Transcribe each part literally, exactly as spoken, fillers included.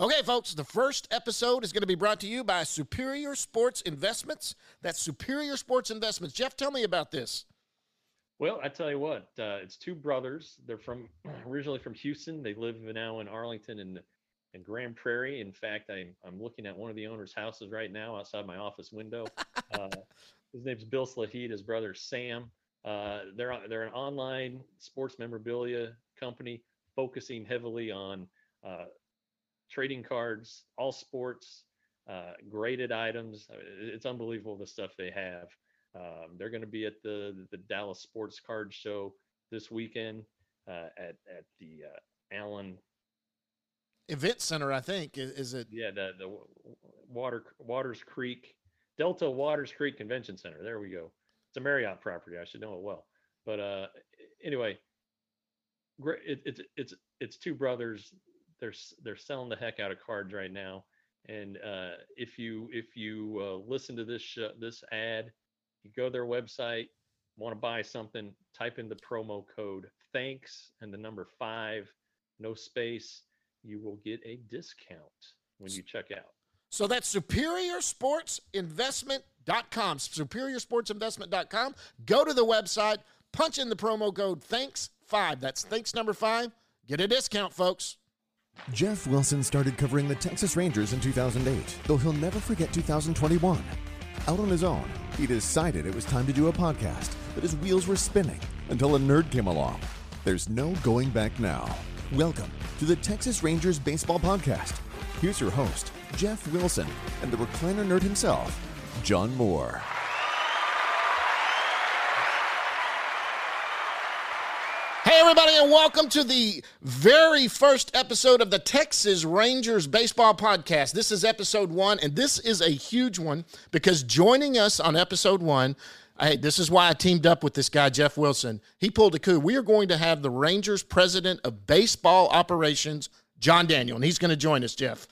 Okay, folks, the first episode is going to be brought to you by Superior Sports Investments. That's Superior Sports Investments. Jeff, tell me about this. Well, I tell you what, uh, it's two brothers. They're from originally from Houston. They live now in Arlington and and Grand Prairie. In fact, I'm I'm looking at one of the owners' houses right now outside my office window. Uh, his name's Bill Slahid. His brother Sam. Uh, they're they're an online sports memorabilia company focusing heavily on uh, trading cards, all sports, uh, graded items. I mean, It's unbelievable the stuff they have. Um, they're going to be at the the Dallas Sports Card Show this weekend uh, at at the uh, Allen. Event Center, I think, is, is it? Yeah, the the Water Waters Creek Delta Waters Creek Convention Center. There we go. It's a Marriott property. I should know it well. But uh, anyway, great. It, it's it's it's two brothers. They're s- they're selling the heck out of cards right now. And uh, if you if you uh, listen to this sh- this ad, you go to their website, want to buy something, type in the promo code thanks and the number five, no space. You will get a discount when you check out. So that's superior sports investment dot com. superior sports investment dot com. Go to the website, punch in the promo code thanks five. That's thanks number five. Get a discount, folks. Jeff Wilson started covering the Texas Rangers in two thousand eight, though he'll never forget two thousand twenty-one. Out on his own, he decided it was time to do a podcast, but his wheels were spinning until a nerd came along. There's no going back now. Welcome to the Texas Rangers Baseball Podcast. Here's your host, Jeff Wilson, and the recliner nerd himself, John Moore. Hey, everybody, and welcome to the very first episode of the Texas Rangers Baseball Podcast. This is episode one, and this is a huge one because joining us on episode one, hey, this is why I teamed up with this guy, Jeff Wilson. He pulled a coup. We are going to have the Rangers president of baseball operations, John Daniel, and he's going to join us, Jeff.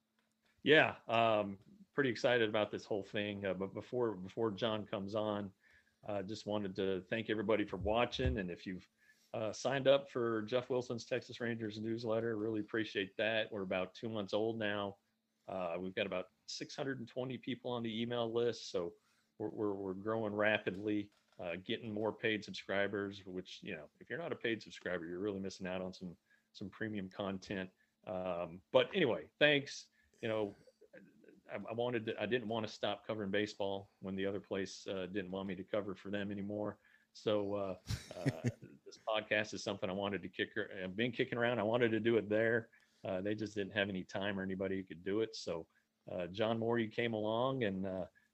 Yeah, um, pretty excited about this whole thing. Uh, but before before John comes on, I uh, just wanted to thank everybody for watching. And if you've uh, signed up for Jeff Wilson's Texas Rangers newsletter, really appreciate that. We're about two months old now. Uh, we've got about six hundred twenty people on the email list, so we're we're, we're growing rapidly, uh, getting more paid subscribers. Which, you know, if you're not a paid subscriber, you're really missing out on some some premium content. Um, but anyway, thanks. You know, I, I wanted to, I didn't want to stop covering baseball when the other place uh, didn't want me to cover for them anymore. So uh, uh, this podcast is something I wanted to kick. I've been kicking around. I wanted to do it there. Uh, they just didn't have any time or anybody who could do it. So uh, John Moore, you came along and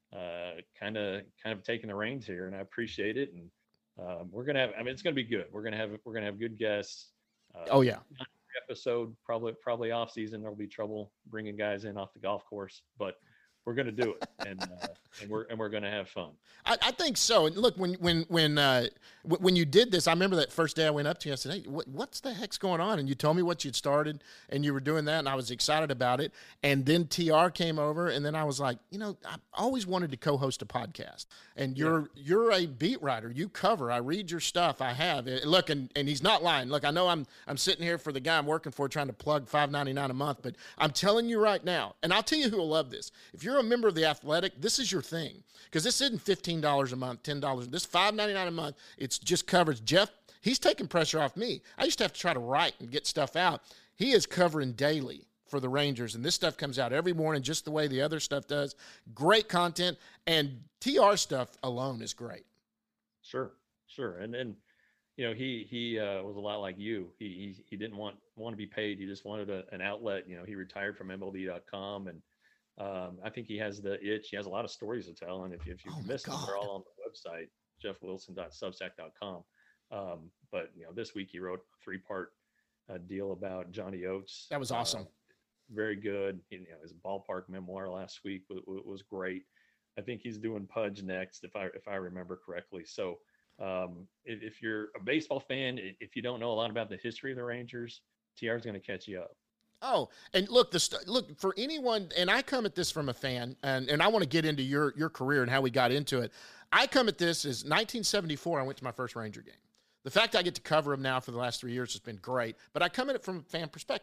kind of kind of taking the reins here, and I appreciate it. And uh, we're gonna have. I mean, it's gonna be good. We're gonna have we're gonna have good guests. Uh, Oh, yeah. Episode probably probably off season there'll be trouble bringing guys in off the golf course, but we're going to do it, and uh, and we're and we're going to have fun. I, I think so. And look, when when when uh, w- when you did this, I remember that first day I went up to you. I said, "Hey, what, what's the heck's going on?" And you told me what you'd started, and you were doing that, and I was excited about it. And then T R came over, and then I was like, you know, I always wanted to co-host a podcast. And you're yeah. you're a beat writer. You cover. I read your stuff. I have it. Look, and, and he's not lying. Look, I know I'm I'm sitting here for the guy I'm working for, trying to plug five ninety-nine a month, but I'm telling you right now, and I'll tell you who will love this. If you're a member of the Athletic, this is your thing, because this isn't fifteen dollars a month, ten dollars. This five ninety-nine a month. It's just covers. Jeff, he's taking pressure off me. I used to have to try to write and get stuff out. He is covering daily for the Rangers, and this stuff comes out every morning just the way the other stuff does. Great content, and T R stuff alone is great. Sure, sure. And then, you know, he he uh, was a lot like you. He he, he didn't want want to be paid. He just wanted a, an outlet. You know, he retired from M L B dot com, and um, I think he has the itch. He has a lot of stories to tell, and if, if you've Oh, missed them, God. they're all on the website, jeff wilson dot substack dot com. Um, but, you know, this week he wrote a three-part uh, deal about Johnny Oates. That was awesome. Uh, very good. You know, his ballpark memoir last week was, was great. I think he's doing Pudge next, if I if I remember correctly. So um, if, if you're a baseball fan, if you don't know a lot about the history of the Rangers, T R is going to catch you up. Oh, and look, the st- look for anyone, and I come at this from a fan, and, and I want to get into your your career and how we got into it. I come at this as nineteen seventy-four. I went to my first Ranger game. The fact I get to cover them now for the last three years has been great, but I come at it from a fan perspective.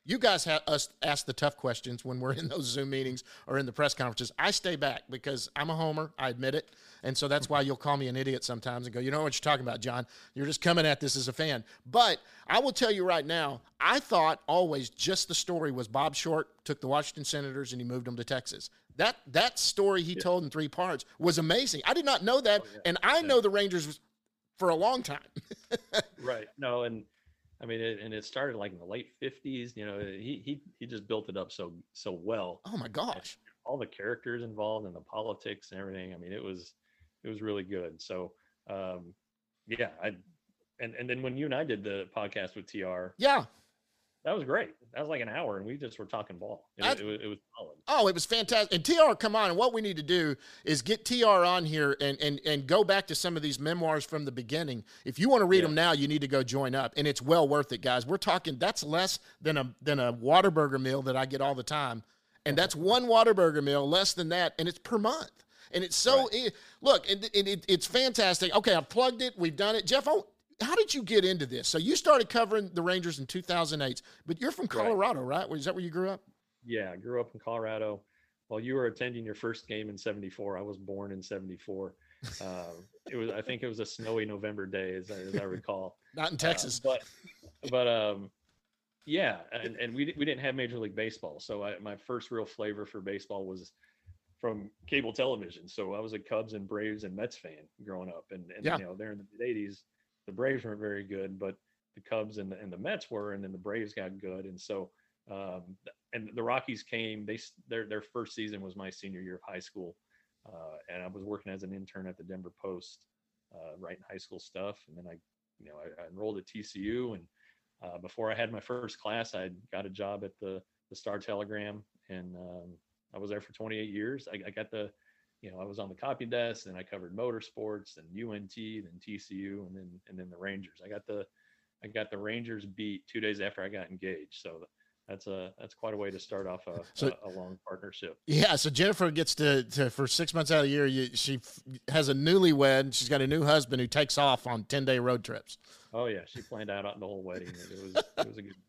You guys have us ask the tough questions when we're in those Zoom meetings or in the press conferences. I stay back because I'm a homer. I admit it. And so that's why you'll call me an idiot sometimes and go, you know what you're talking about, John. You're just coming at this as a fan. But I will tell you right now, I thought always just the story was Bob Short took the Washington Senators and he moved them to Texas. That that story he yeah. told in three parts was amazing. I did not know that. Oh, yeah. And I yeah. know the Rangers for a long time. Right. No, and I mean, it, and it started like in the late fifties. You know, he he he just built it up so so well. Oh my gosh! And all the characters involved and the politics and everything. I mean, it was it was really good. So, um, yeah, I and and then when you and I did the podcast with T R, yeah, that was great. That was like an hour, and we just were talking ball. It, it, it, it was solid. Oh, it was fantastic. And T R, come on. And what we need to do is get T R on here and and and go back to some of these memoirs from the beginning. If you want to read yeah. them now, you need to go join up, and it's well worth it, guys. We're talking that's less than a than a Whataburger meal that I get all the time, and that's one Whataburger meal, less than that, and it's per month. And it's so right. it, look, it, it, it, it's fantastic. Okay, I've plugged it. We've done it, Jeff. Oh, how did you get into this? So you started covering the Rangers in two thousand eight, but you're from Colorado, right? right? Is that where you grew up? Yeah, I grew up in Colorado. While you were attending your first game in seventy-four, I was born in seventy-four. Uh, it was, I think it was a snowy November day, as I, as I recall. Not in Texas. Uh, but, but um, yeah, and, and we, we didn't have Major League Baseball. So I, my first real flavor for baseball was from cable television. So I was a Cubs and Braves and Mets fan growing up. And, and yeah. you know, there in the mid eighties, the Braves weren't very good, but the Cubs and the, and the Mets were, and then the Braves got good. And so, um, and the Rockies came, they, their, their first season was my senior year of high school. Uh, and I was working as an intern at the Denver Post, uh, writing high school stuff. And then I, you know, I, I enrolled at T C U, and, uh, before I had my first class, I got a job at the, the Star Telegram, and, um, I was there for twenty-eight years. I, I got the, you know, I was on the copy desk, and I covered motorsports and U N T, then T C U, and then and then the Rangers. I got the I got the Rangers beat two days after I got engaged. So that's a that's quite a way to start off a, so, a, a long partnership. Yeah. So Jennifer gets to, to for six months out of the year, you, she f- has a newlywed. She's got a new husband who takes off on ten day road trips. Oh yeah, she planned out the whole wedding. It was it was a good.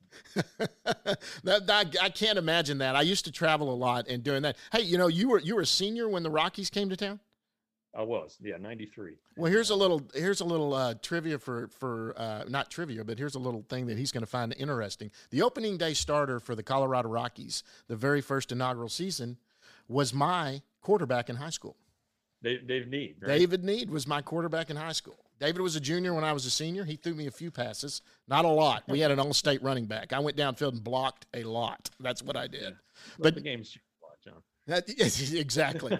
that, that, I can't imagine that. I used to travel a lot and doing that. Hey, you know, you were you were a senior when the Rockies came to town? I was, yeah, ninety-three. Well, here's a little here's a little uh, trivia for for uh, not trivia, but here's a little thing that he's going to find interesting. The opening day starter for the Colorado Rockies, the very first inaugural season, was my quarterback in high school. Dave, Dave Need, right? David Need was my quarterback in high school. David was a junior when I was a senior. He threw me a few passes, not a lot. We had an all-state running back. I went downfield and blocked a lot. That's what I did. Yeah. But the game's a lot, John. That, exactly.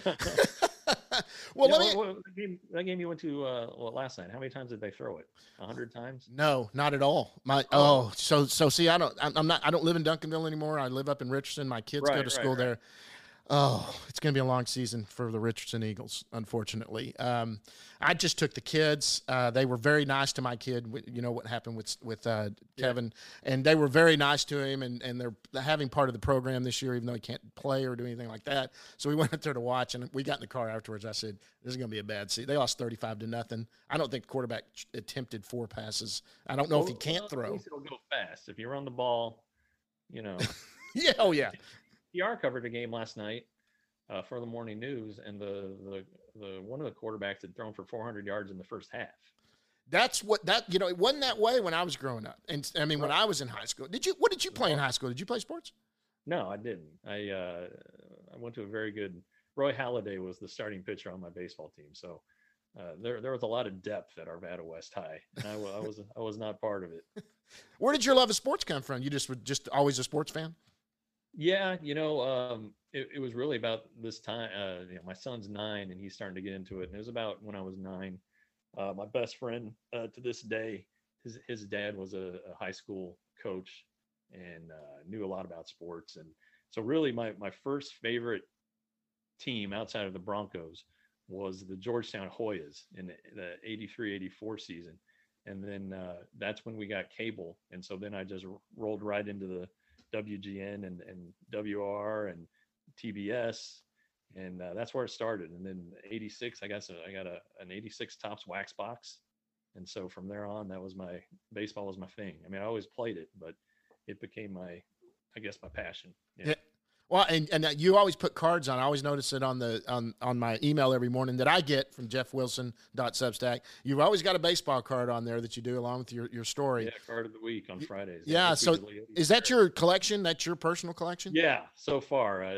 Well, yeah, let me. What, what, that, game, that game you went to uh, well, last night. How many times did they throw it? A hundred times? No, not at all. My oh, so so see, I don't. I'm not. I don't live in Duncanville anymore. I live up in Richardson. My kids right, go to school right, right. there. Oh, it's going to be a long season for the Richardson Eagles, unfortunately. Um, I just took the kids. Uh, they were very nice to my kid. You know what happened with with uh, Kevin, yeah. and they were very nice to him. And, and they're having part of the program this year, even though he can't play or do anything like that. So we went up there to watch, and we got in the car afterwards. I said, "This is going to be a bad season." They lost thirty-five to nothing. I don't think the quarterback attempted four passes. I don't know well, if he can't well, throw. At least it'll go fast if you run the ball. You know. yeah. Oh yeah. T R covered a game last night. Uh, for the morning news, and the, the the one of the quarterbacks had thrown for four hundred yards in the first half. That's what that you know. It wasn't that way when I was growing up, and I mean right. when I was in high school. Did you? What did you play in high school? Did you play sports? No, I didn't. I uh, I went to a very good. Roy Halladay was the starting pitcher on my baseball team, so uh, there there was a lot of depth at Arvada West High, and I, I was I was not part of it. Where did your love of sports come from? You just were just always a sports fan? Yeah, you know, um, it, it was really about this time. Uh, you know, my son's nine, and he's starting to get into it. And it was about when I was nine. Uh, my best friend uh, to this day, his his dad was a, a high school coach and uh, knew a lot about sports. And so, really, my my first favorite team outside of the Broncos was the Georgetown Hoyas in the, the eighty-three eighty-four season. And then uh, that's when we got cable. And so then I just rolled right into the W G N and, and W R and T B S, and uh, that's where it started. And then eighty-six, I got I got a an eighty-six Topps wax box, and so from there on, that was my baseball was my thing. I mean, I always played it, but it became my I guess my passion. Yeah. Yeah. Well, and, and you always put cards on. I always notice it on the on, on my email every morning that I get from jeff wilson dot substack. You've always got a baseball card on there that you do along with your, your story. Yeah, card of the week on Fridays. Yeah, so is that your collection? That's your personal collection? Yeah, so far, uh,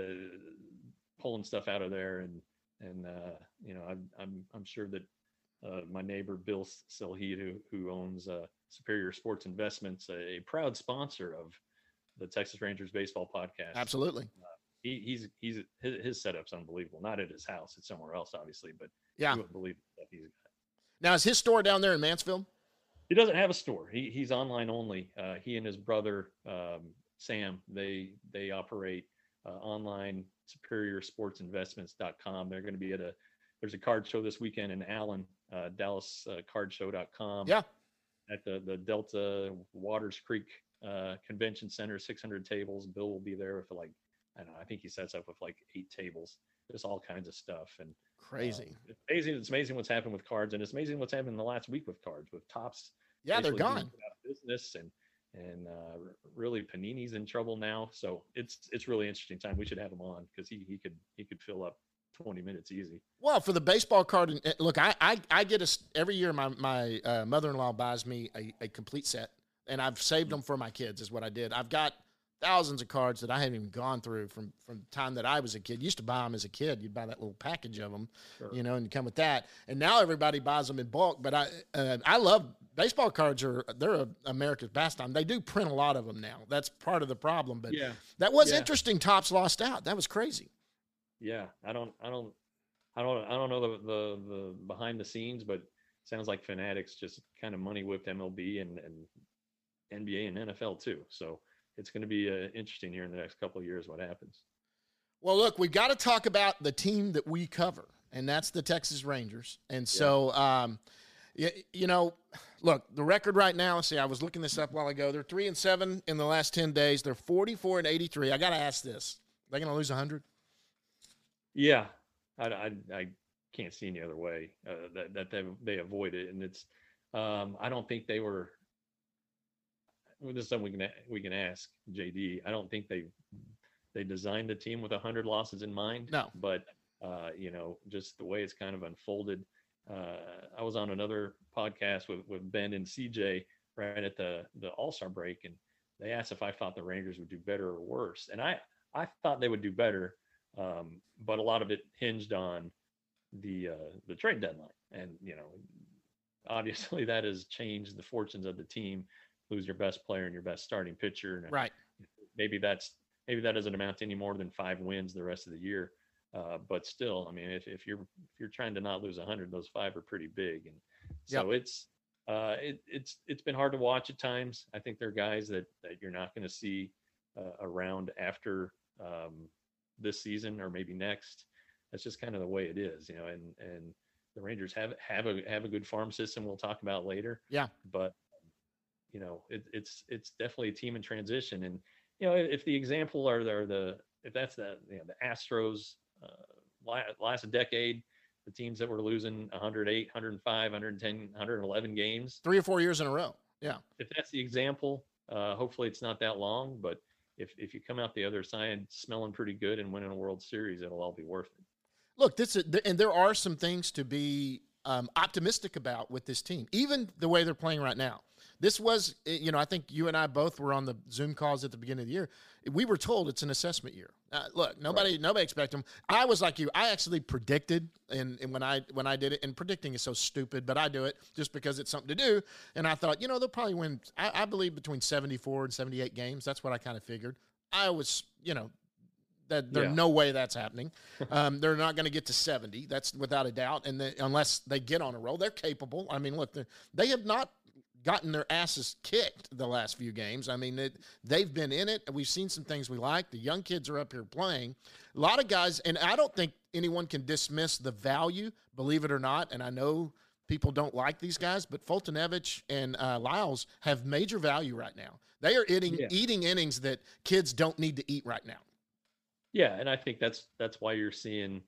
pulling stuff out of there, and and uh, you know, I'm I'm I'm sure that uh, my neighbor Bill Silheed, who who owns uh, Superior Sports Investments, a, a proud sponsor of the Texas Rangers baseball podcast. Absolutely. Uh, he, he's he's his, his setup's unbelievable. Not at his house; it's somewhere else, obviously. But yeah, you wouldn't believe the stuff he's got. Now, is his store down there in Mansfield? He doesn't have a store. He he's online only. Uh, he and his brother um, Sam they they operate uh, online superior sports investments dot com. They're going to be at a there's a card show this weekend in Allen, uh, Dallas uh, card show dot com. Yeah. At the the Delta Waters Creek uh, Convention Center, six hundred tables. Bill will be there with like I don't know. I think he sets up with like eight tables. Just all kinds of stuff and crazy. Uh, it's amazing. It's amazing what's happened with cards, and it's amazing what's happened in the last week with cards with Topps. Yeah, they're gone. Out of business and and uh, really Panini's in trouble now. So it's it's really interesting time. We should have him on because he he could he could fill up twenty minutes easy. Well, for the baseball card, and look, I I, I get a every year. My my uh, mother-in-law buys me a, a complete set, and I've saved them for my kids. Is what I did. I've got thousands of cards that I haven't even gone through from from the time that I was a kid. Used to buy them as a kid. You'd buy that little package of them, sure. you know, and you come with that. And now everybody buys them in bulk. But I uh, I love baseball cards. Are they're a, America's pastime. They do print a lot of them now. That's part of the problem. But yeah. that was yeah. interesting. Topps lost out. That was crazy. Yeah, I don't I don't I don't I don't know the the, the behind the scenes, but it sounds like Fanatics just kind of money whipped M L B and, and N B A and N F L too. So it's going to be uh, interesting here in the next couple of years what happens. Well, look, we've got to talk about the team that we cover, and that's the Texas Rangers. And so, yeah. um, you, you know, look, the record right now, let's see, I was looking this up a while ago. They're three and seven in the last ten days. They're forty-four and eighty-three. I got to ask this. Are they going to lose one hundred? Yeah, I, I, I can't see any other way uh, that, that they, they avoid it. And it's, um, I don't think they were, well, this is something we can we can ask J D. I don't think they they designed the team with a hundred losses in mind. No, but uh, you know, just the way it's kind of unfolded. Uh, I was on another podcast with with Ben and C J right at the the All-Star break, and they asked if I thought the Rangers would do better or worse, and I I thought they would do better, um, but a lot of it hinged on the uh, the trade deadline, and you know, obviously that has changed the fortunes of the team. Lose your best player and your best starting pitcher. And right. Maybe that's maybe that doesn't amount to any more than five wins the rest of the year. Uh, but still, I mean, if, if you're if you're trying to not lose a hundred, those five are pretty big. And so yep. it's uh, it, it's it's been hard to watch at times. I think there are guys that that you're not going to see uh, around after um, this season or maybe next. That's just kind of the way it is, you know. And and the Rangers have have a have a good farm system. We'll talk about later. Yeah, but. You know, it, it's it's definitely a team in transition, and you know, if the example are the, the if that's the you know the Astros uh, last decade, the teams that were losing one hundred eight, one hundred five, one hundred ten, one hundred eleven games, three or four years in a row. Yeah, if that's the example, uh, hopefully it's not that long. But if if you come out the other side smelling pretty good and winning a World Series, it'll all be worth it. Look, this is, and there are some things to be um, optimistic about with this team, even the way they're playing right now. This was, you know, I think you and I both were on the Zoom calls at the beginning of the year. We were told it's an assessment year. Uh, look, nobody, right. nobody expected them. I was like you. I actually predicted, and, and when I when I did it, and predicting is so stupid, but I do it just because it's something to do. And I thought, you know, they'll probably win. I, I believe between seventy-four and seventy-eight games. That's what I kind of figured. I was, you know, that there's yeah. no way that's happening. Um, they're not going to get to seventy. That's without a doubt. And they, unless they get on a roll, they're capable. I mean, look, they have not gotten their asses kicked the last few games. I mean, it, they've been in it. We've seen some things we like. The young kids are up here playing. A lot of guys, and I don't think anyone can dismiss the value, believe it or not, and I know people don't like these guys, but Foltynewicz and uh, Lyles have major value right now. They are eating, yeah. eating innings that kids don't need to eat right now. Yeah, and I think that's that's why you're seeing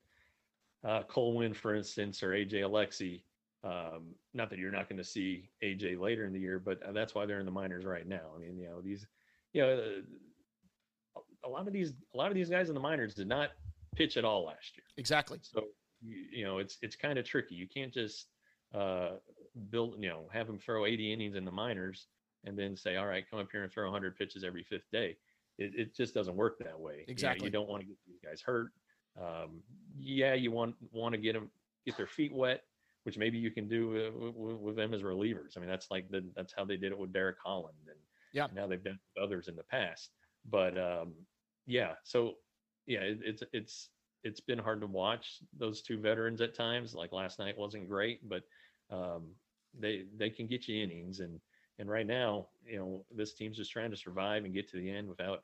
uh, Cole Winn, for instance, or A J Alexy. Um, not that you're not going to see A J later in the year, but that's why they're in the minors right now. I mean, you know, these, you know, a lot of these a lot of these guys in the minors did not pitch at all last year. Exactly. So you, you know it's it's kind of tricky. You can't just uh, build you know have them throw eighty innings in the minors and then say, all right, come up here and throw one hundred pitches every fifth day. It, it just doesn't work that way. Exactly. You know, you don't want to get these guys hurt. Um, yeah, you want want to get them get their feet wet, which maybe you can do uh, with, with them as relievers. I mean, that's like the that's how they did it with Derek Holland, and yeah, now they've done it with others in the past. But um, yeah, so yeah, it, it's it's it's been hard to watch those two veterans at times. Like last night wasn't great, but um, they they can get you innings, and and right now, you know, this team's just trying to survive and get to the end without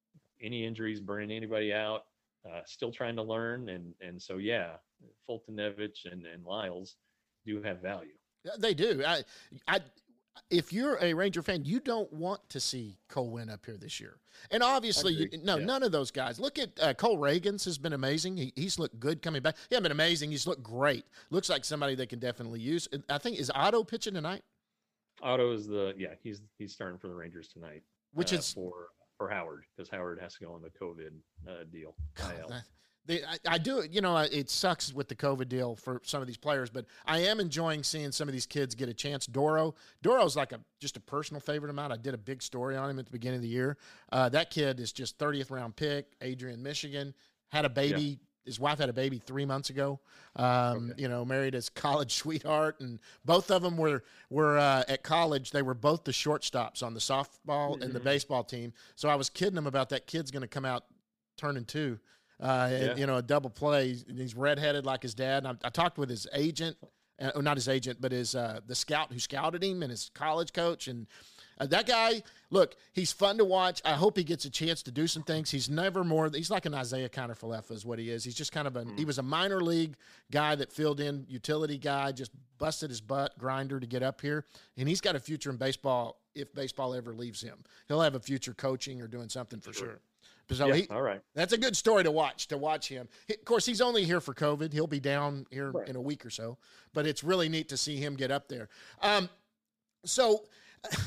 any injuries, burning anybody out. Uh, still trying to learn, and and so yeah, Foltynewicz and and Lyles do have value. They do. I, I, if you're a Ranger fan, you don't want to see Cole Winn up here this year. And obviously, you, no, yeah. none of those guys. Look at uh, Cole Reagans has been amazing. He, he's looked good coming back. He hasn't been amazing. He's looked great. Looks like somebody they can definitely use. I think, is Otto pitching tonight? Otto is the yeah. He's he's starting for the Rangers tonight. Which uh, is for. For Howard, because Howard has to go on the COVID uh, deal. God, that, they, I, I do, you know, it sucks with the COVID deal for some of these players, but I am enjoying seeing some of these kids get a chance. Doro, Doro's like a just a personal favorite of mine. I did a big story on him at the beginning of the year. Uh, that kid is just thirtieth round pick, Adrian, Michigan, had a baby. Yeah. His wife had a baby three months ago. Um, okay. You know, married his college sweetheart, and both of them were were uh, at college. They were both the shortstops on the softball mm-hmm. and the baseball team. So I was kidding him about that kid's going to come out turning two. Uh, yeah. and, you know, a double play. He's redheaded like his dad. And I, I talked with his agent, uh, not his agent, but his uh, the scout who scouted him and his college coach, and. Uh, that guy, look, he's fun to watch. I hope he gets a chance to do some things. He's never more – he's like an Isaiah Kiner-Falefa is what he is. He's just kind of a mm. – he was a minor league guy that filled in, utility guy, just busted his butt, grinder to get up here. And he's got a future in baseball if baseball ever leaves him. He'll have a future coaching or doing something for sure. sure. So yeah, he, all right. That's a good story to watch, to watch him. He, of course, he's only here for COVID. He'll be down here right. in a week or so. But it's really neat to see him get up there. Um, so –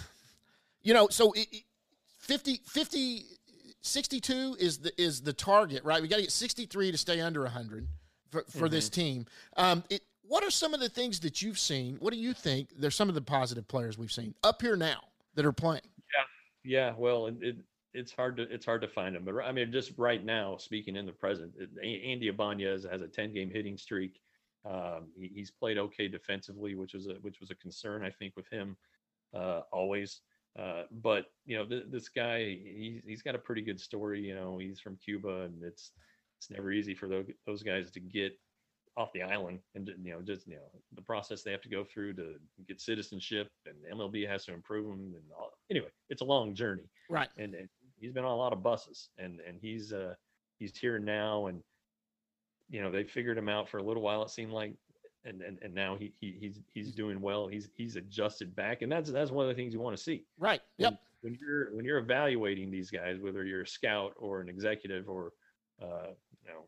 You know, so fifty, fifty, sixty-two is the is the target, right? We got to get sixty-three to stay under one hundred for, for mm-hmm. this team. Um, it, what are some of the things that you've seen? What do you think? There's some of the positive players we've seen up here now that are playing. Yeah, yeah. Well, it, it it's hard to it's hard to find them, but I mean, just right now, speaking in the present, it, Andy Ibanez has a ten game hitting streak. Um, he, he's played okay defensively, which was a which was a concern I think with him uh, always. Uh, but you know, th- this guy, he's he's got a pretty good story. You know, he's from Cuba, and it's it's never easy for those those guys to get off the island, and you know, just you know, the process they have to go through to get citizenship, and M L B has to improve them, and all. Anyway, it's a long journey, right? And, and he's been on a lot of buses, and and he's uh he's here now, and you know, they figured him out for a little while. It seemed like. And, and and now he, he he's he's doing well. He's he's adjusted back, and that's that's one of the things you want to see. Right. Yep. When, when you're when you're evaluating these guys, whether you're a scout or an executive or uh, you know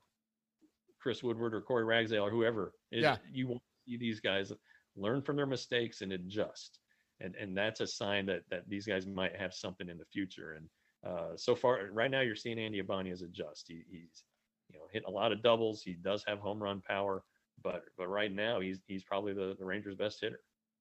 Chris Woodward or Corey Ragsdale or whoever, it, yeah. you want to see these guys learn from their mistakes and adjust, and and that's a sign that that these guys might have something in the future. And uh, so far, right now, you're seeing Andy Ibanez adjust. He, he's you know hitting a lot of doubles. He does have home run power. But but right now he's he's probably the, the Rangers' best hitter.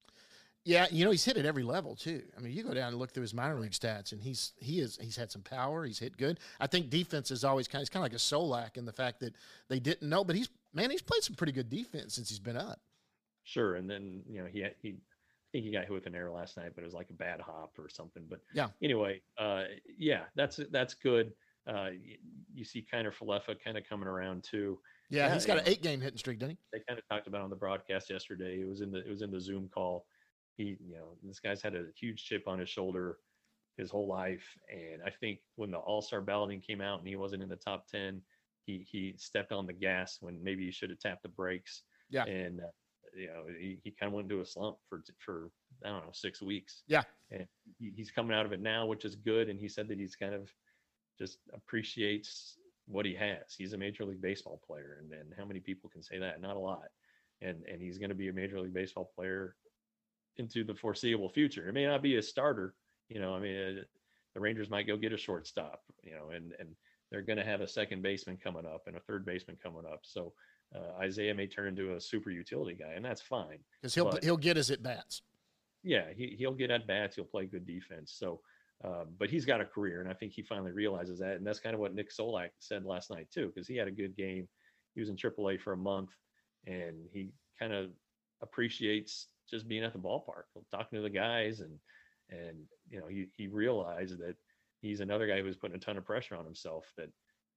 Yeah, you know, he's hit at every level too. I mean, you go down and look through his minor league stats, and he's he is he's had some power. He's hit good. I think defense is always kind of, it's kind of like a Solak in the fact that they didn't know, but he's man, he's played some pretty good defense since he's been up. Sure, and then you know he had, he I think he got hit with an error last night, but it was like a bad hop or something. But yeah, anyway, uh, yeah, that's that's good. Uh, you, you see Kiner-Falefa kind of coming around too. Yeah, yeah, he's got an eight-game hitting streak, doesn't he? They kind of talked about it on the broadcast yesterday. It was in the it was in the Zoom call. He, you know, this guy's had a huge chip on his shoulder his whole life, and I think when the All-Star balloting came out and he wasn't in the top ten, he he stepped on the gas when maybe he should have tapped the brakes. Yeah, and uh, you know he, he kind of went into a slump for for I don't know six weeks. Yeah, and he, he's coming out of it now, which is good. And he said that he's kind of just appreciates what he has. He's a Major League Baseball player, and, and how many people can say that? Not a lot. And and he's going to be a Major League Baseball player into the foreseeable future. It may not be a starter, you know. I mean, uh, the Rangers might go get a shortstop, you know, and and they're going to have a second baseman coming up and a third baseman coming up. So uh, Isaiah may turn into a super utility guy, and that's fine. Because he'll, but, he'll get his at-bats. Yeah, he, he'll get at-bats. He'll play good defense. So, uh, but he's got a career, and I think he finally realizes that. And that's kind of what Nick Solak said last night, too, because he had a good game. He was in triple A for a month, and he kind of appreciates just being at the ballpark, talking to the guys, and and you know he he realized that he's another guy who was putting a ton of pressure on himself. That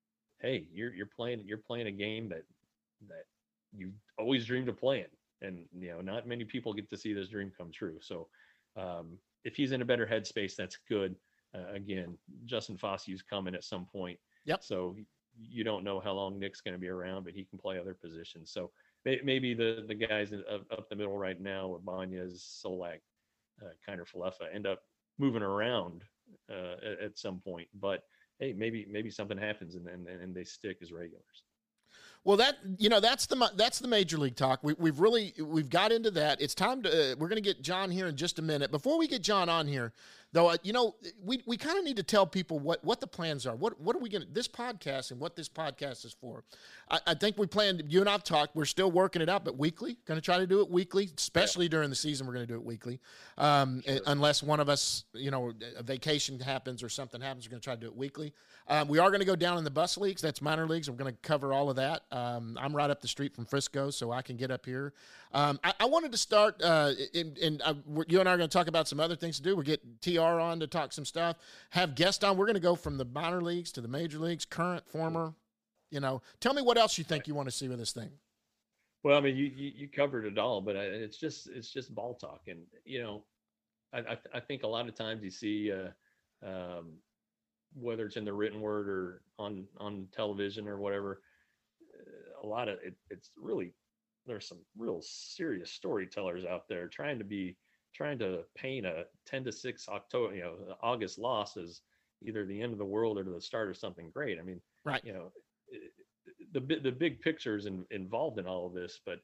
hey, you're you're playing you're playing a game that that you always dreamed of playing, and you know not many people get to see this dream come true. So um, if he's in a better headspace, that's good. Uh, again, Justin Fossey's coming at some point. Yep. So you don't know how long Nick's going to be around, but he can play other positions. So maybe the the guys up, up the middle right now, Ibanez, Solak, uh, Kiner Falefa, end up moving around uh, at, at some point. But hey, maybe maybe something happens and and, and they stick as regulars. Well, that you know that's the that's the major league talk. We, we've really we've got into that. It's time to uh, we're going to get John here in just a minute. Before we get John on here, though, uh, you know we we kind of need to tell people what what the plans are. What what are we going to this podcast and what this podcast is for? I, I think we planned. You and I've talked. We're still working it out, but weekly. Going to try to do it weekly, especially yeah. during the season. We're going to do it weekly, um, sure. unless one of us, you know, a vacation happens or something happens. We're going to try to do it weekly. Um, we are going to go down in the bus leagues. That's minor leagues. We're going to cover all of that. Um, I'm right up the street from Frisco, so I can get up here. Um, I, I wanted to start, uh, and uh, you and I are going to talk about some other things to do. We'll get T R on to talk some stuff, have guests on. We're going to go from the minor leagues to the major leagues, current, former. You know, tell me what else you think you want to see with this thing. Well, I mean, you you, you covered it all, but it's just it's just ball talk, and you know, I I, I think a lot of times you see. Uh, um, whether it's in the written word or on, on television or whatever, a lot of it, it's really, there's some real serious storytellers out there trying to be, trying to paint a ten to six October, you know, August loss as either the end of the world or the start of something great. I mean, right. You know, the, the big picture is in, involved in all of this, but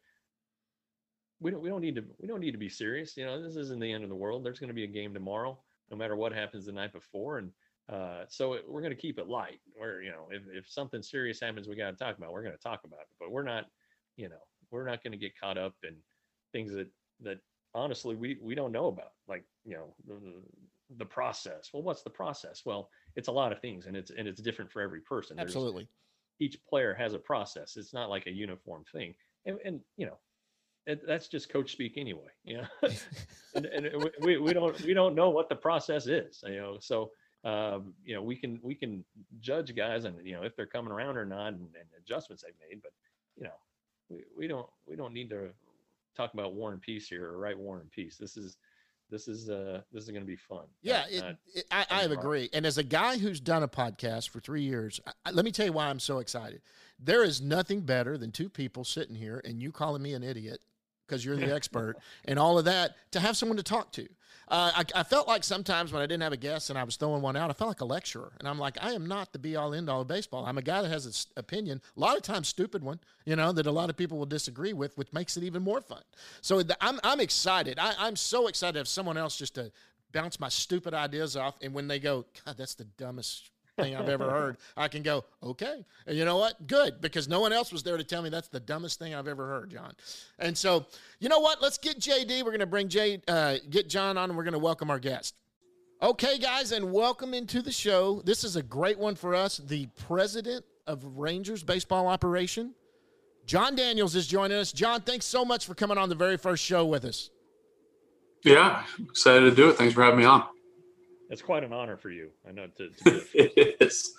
we don't, we don't need to, we don't need to be serious. You know, this isn't the end of the world. There's going to be a game tomorrow, no matter what happens the night before. And, Uh, so it, we're going to keep it light. Where you know, if, if something serious happens, we got to talk about. We're going to talk about it, but we're not, you know, we're not going to get caught up in things that that honestly we we don't know about. Like you know, the, the process. Well, what's the process? Well, it's a lot of things, and it's and it's different for every person. Absolutely, There's, each player has a process. It's not like a uniform thing, and and you know. It, that's just coach speak anyway, you know, and, and we, we don't we don't know what the process is, you know, so. Um, you know, we can we can judge guys and you know if they're coming around or not and, and adjustments they've made, but you know, we, we don't we don't need to talk about War and Peace here or write War and Peace. This is this is uh this is going to be fun. Yeah, not, it, not it, I, I agree. And as a guy who's done a podcast for three years, I, let me tell you why I'm so excited. There is nothing better than two people sitting here and you calling me an idiot because you're the expert and all of that to have someone to talk to. Uh, I, I felt like sometimes when I didn't have a guest and I was throwing one out, I felt like a lecturer. And I'm like, I am not the be-all, end-all of baseball. I'm a guy that has an opinion, a lot of times stupid one, you know, that a lot of people will disagree with, which makes it even more fun. So the, I'm I'm excited. I, I'm so excited to have someone else just to bounce my stupid ideas off. And when they go, God, that's the dumbest thing I've ever heard, I can go, okay. And you know what? Good, because no one else was there to tell me that's the dumbest thing I've ever heard, John. And so, you know what? Let's get J D. We're going to bring J, uh, get John on, and we're going to welcome our guest. Okay, guys, and welcome into the show. This is a great one for us. The president of Rangers baseball operation, Jon Daniels, is joining us. John, thanks so much for coming on the very first show with us. Yeah, excited to do it. Thanks for having me on. It's quite an honor for you. I know to, to it is.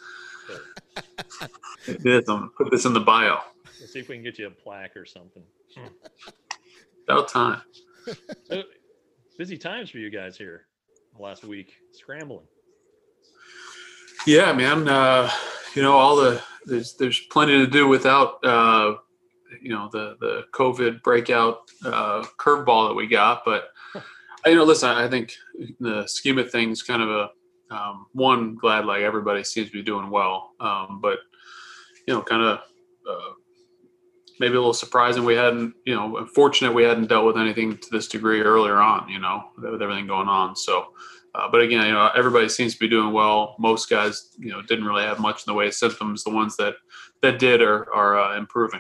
It is. I'm gonna put this in the bio. Let's see if we can get you a plaque or something. About time. So, busy times for you guys here last week, scrambling. Yeah, man. Uh, you know, all the there's there's plenty to do without uh, you know the the COVID breakout uh, curveball that we got, but. You know, listen, I think in the scheme of things, kind of a um, one, glad like everybody seems to be doing well. Um, but, you know, kind of uh, maybe a little surprising we hadn't, you know, fortunate we hadn't dealt with anything to this degree earlier on, you know, with everything going on. So Uh, but again, you know, everybody seems to be doing well. Most guys, you know, didn't really have much in the way of symptoms. The ones that that did are are uh, improving.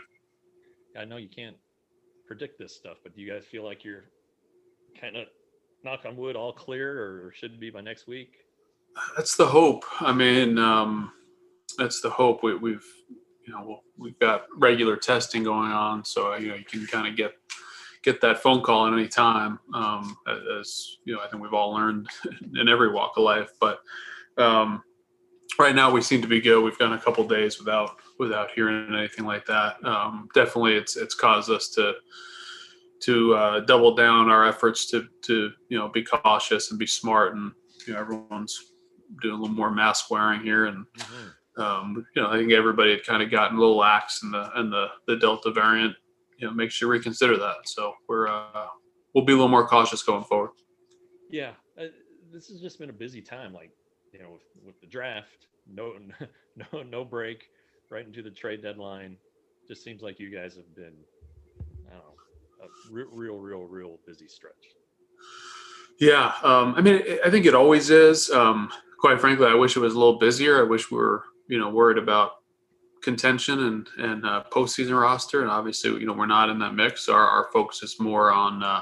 I know you can't predict this stuff, but do you guys feel like you're kind of, knock on wood, all clear, or should be by next week? That's the hope. I mean, um, that's the hope. We, we've, you know, we've got regular testing going on, so you know, you can kind of get get that phone call at any time. Um, as you know, I think we've all learned in every walk of life. But um, right now, we seem to be good. We've gone a couple days without without hearing anything like that. Um, definitely, it's it's caused us to to uh, double down our efforts to to you know, be cautious and be smart, and you know, everyone's doing a little more mask wearing here, and mm-hmm. um, you know, I think everybody had kind of gotten a little lax in the in the the Delta variant. You know, makes you reconsider that. So we're uh, we'll be a little more cautious going forward. Yeah, uh, this has just been a busy time. Like, you know, with, with the draft, no no no break, right into the trade deadline. Just seems like you guys have been, I don't know, a real real real real busy stretch. Yeah, um, I mean, I think it always is. Um, quite frankly, I wish it was a little busier. I wish we were, you know, worried about contention and and uh, postseason roster, and obviously, you know, we're not in that mix. Our our focus is more on uh,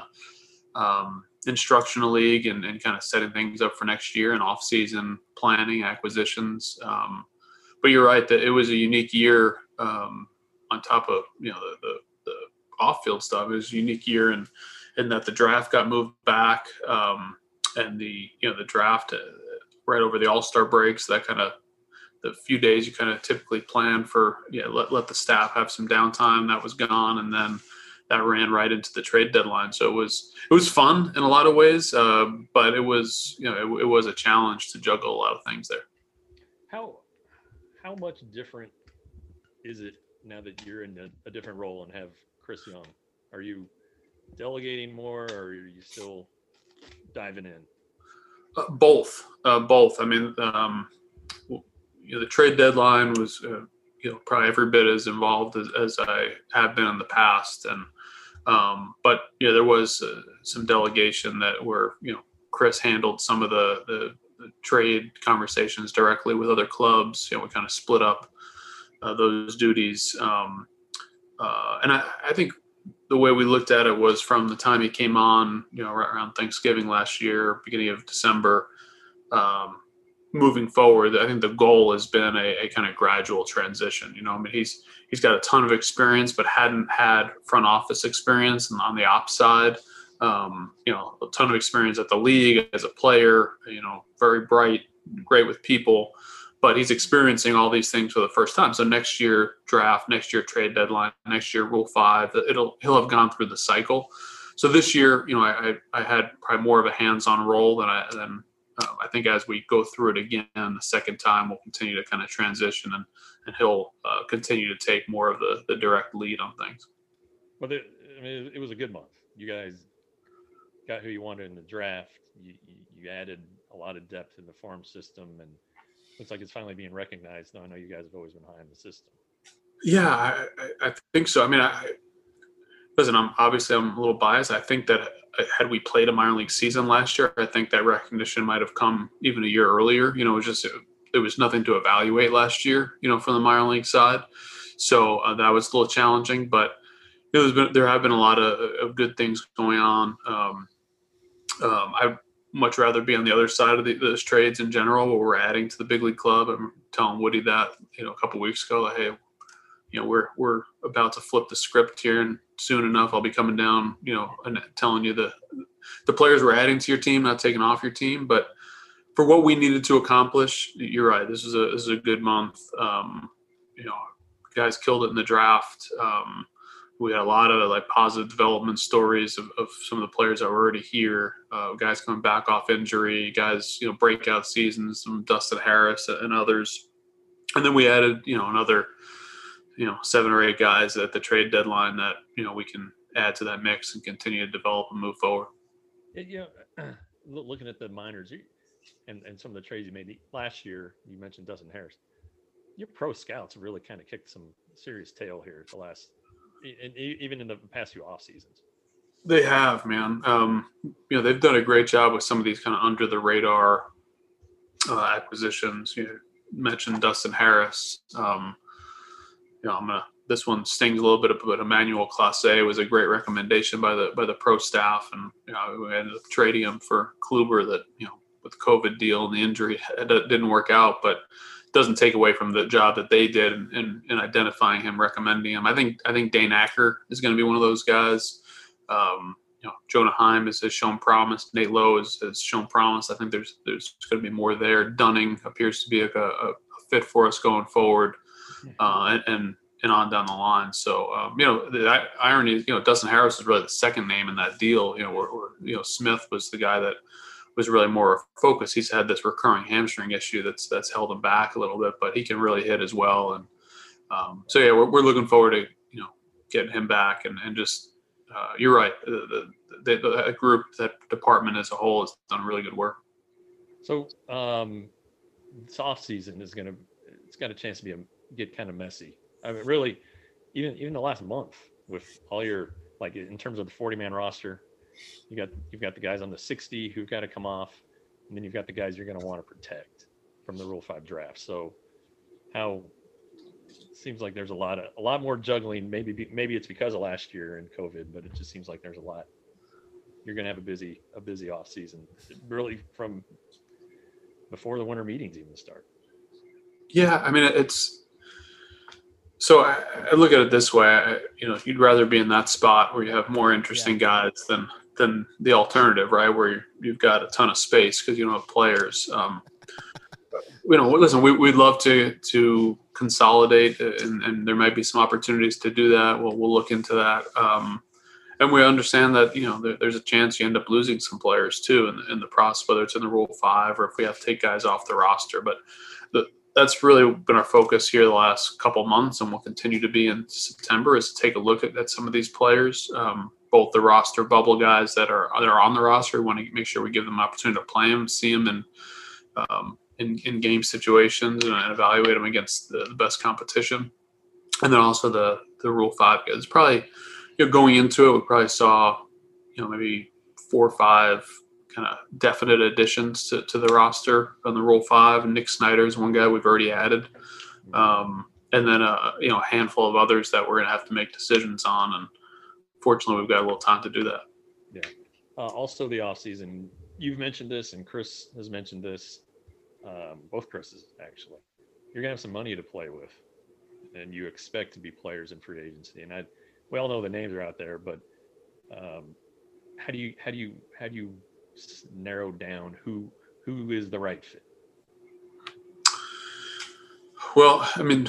um, instructional league and, and kind of setting things up for next year and off-season planning, acquisitions. Um, but you're right that it was a unique year. Um, on top of, you know, the the, the off-field stuff, it was a unique year, and in that the draft got moved back, um, and the you know the draft uh, right over the All-Star breaks. That kind of the few days you kind of typically plan for, yeah, let, let the staff have some downtime, that was gone. And then that ran right into the trade deadline. So it was, it was fun in a lot of ways. Uh, but it was, you know, it, it was a challenge to juggle a lot of things there. How, how much different is it now that you're in a, a different role and have Chris Young? Are you delegating more, or are you still diving in? Uh, both, uh, both. I mean, um, you know, the trade deadline was, uh, you know, probably every bit as involved as, as I have been in the past. And, um, but, you know, there was uh, some delegation that where, you know, Chris handled some of the, the, the trade conversations directly with other clubs. You know, we kind of split up uh, those duties. Um, uh, and I, I think the way we looked at it was from the time he came on, you know, right around Thanksgiving last year, beginning of December, um, moving forward, I think the goal has been a, a kind of gradual transition. You know, I mean, he's he's got a ton of experience, but hadn't had front office experience, and on the ops side, um, you know, a ton of experience at the league as a player. You know, very bright, great with people, but he's experiencing all these things for the first time. So next year draft, next year trade deadline, next year Rule Five, it'll he'll have gone through the cycle. So this year, you know, I I had probably more of a hands-on role than I than. Um, I think as we go through it again the second time, we'll continue to kind of transition, and, and he'll uh, continue to take more of the, the direct lead on things. But it, I mean, it was a good month. You guys got who you wanted in the draft. You, you, you added a lot of depth in the farm system, and looks like it's finally being recognized. Now, I know you guys have always been high in the system. Yeah, I, I, I think so. I mean, I, listen, I'm obviously I'm a little biased. I think that had we played a minor league season last year, I think that recognition might have come even a year earlier. You know, it was just, it, there was nothing to evaluate last year, you know, from the minor league side. So uh, that was a little challenging, but you know, there's been, there have been a lot of, of good things going on. Um, um, I'd much rather be on the other side of the, those trades in general, where we're adding to the big league club. I'm telling Woody that, you know, a couple of weeks ago, like, hey, you know, we're we're about to flip the script here, and soon enough I'll be coming down, you know, and telling you the the players we're adding to your team, not taking off your team. But for what we needed to accomplish, you're right. This is a this is a good month. Um, you know, guys killed it in the draft. Um, we had a lot of like positive development stories of, of some of the players that were already here. Uh, guys coming back off injury, guys, you know, breakout seasons, some Dustin Harris and others. And then we added, you know, another, you know, seven or eight guys at the trade deadline that, you know, we can add to that mix and continue to develop and move forward. You know, looking at the minors and, and some of the trades you made last year, you mentioned Dustin Harris. Your pro scouts really kind of kicked some serious tail here the last, and even in the past few off seasons. They have, man. Um, you know, they've done a great job with some of these kind of under the radar uh, acquisitions. You mentioned Dustin Harris. Um, you know, I'm gonna. This one stings a little bit, but Emmanuel Clase was a great recommendation by the by the pro staff, and you know, we ended up trading him for Kluber. That you know, with the COVID deal and the injury, it didn't work out, but it doesn't take away from the job that they did in, in, in identifying him, recommending him. I think I think Dane Acker is going to be one of those guys. Um, you know, Jonah Heim has, has shown promise. Nate Lowe has, has shown promise. I think there's there's going to be more there. Dunning appears to be a, a, a fit for us going forward, uh, and, and and on down the line. So um, you know, the irony is, you know, Dustin Harris is really the second name in that deal. You know, or, or you know, Smith was the guy that was really more focused. He's had this recurring hamstring issue that's that's held him back a little bit, but he can really hit as well. And um, so yeah, we're we're looking forward to you know getting him back and and just. Uh, you're right. The, the, the, the group, that department as a whole, has done really good work. So um, this off season is going to, it's got a chance to be a, get kind of messy. I mean, really, even even the last month with all your, like in terms of the forty man roster, you got you've got the guys on the sixty who've got to come off, and then you've got the guys you're going to want to protect from the Rule Five draft. So how? Seems like there's a lot of a lot more juggling. Maybe maybe it's because of last year and COVID, but it just seems like there's a lot. You're going to have a busy a busy off season, really from before the winter meetings even start. Yeah, I mean it's. So I, I look at it this way. I, you know, you'd rather be in that spot where you have more interesting yeah. guys than than the alternative, right? Where you, you've got a ton of space because you don't have players. Um, you know, listen, we, we'd love to to consolidate, and, and there might be some opportunities to do that. We'll we'll look into that, um, and we understand that you know there, there's a chance you end up losing some players too in the, in the process, whether it's in the Rule Five or if we have to take guys off the roster. But the, that's really been our focus here the last couple months, and will continue to be in September, is to take a look at, at some of these players, um, both the roster bubble guys that are that are on the roster. We want to make sure we give them an opportunity to play them, see them, and um, in, in game situations and evaluate them against the, the best competition. And then also the, the Rule Five guys. Probably, you know, going into it, we probably saw, you know, maybe four or five kind of definite additions to, to the roster on the Rule Five. Nick Snyder is one guy we've already added. Um, and then, uh, you know, a handful of others that we're going to have to make decisions on. And fortunately, we've got a little time to do that. Yeah. Uh, also the offseason, you've mentioned this and Chris has mentioned this. Um, both Chris's actually, you're gonna have some money to play with, and you expect to be players in free agency. And I, we all know the names are out there, but um, how do you how do you how do you narrow down who who is the right fit? Well, I mean,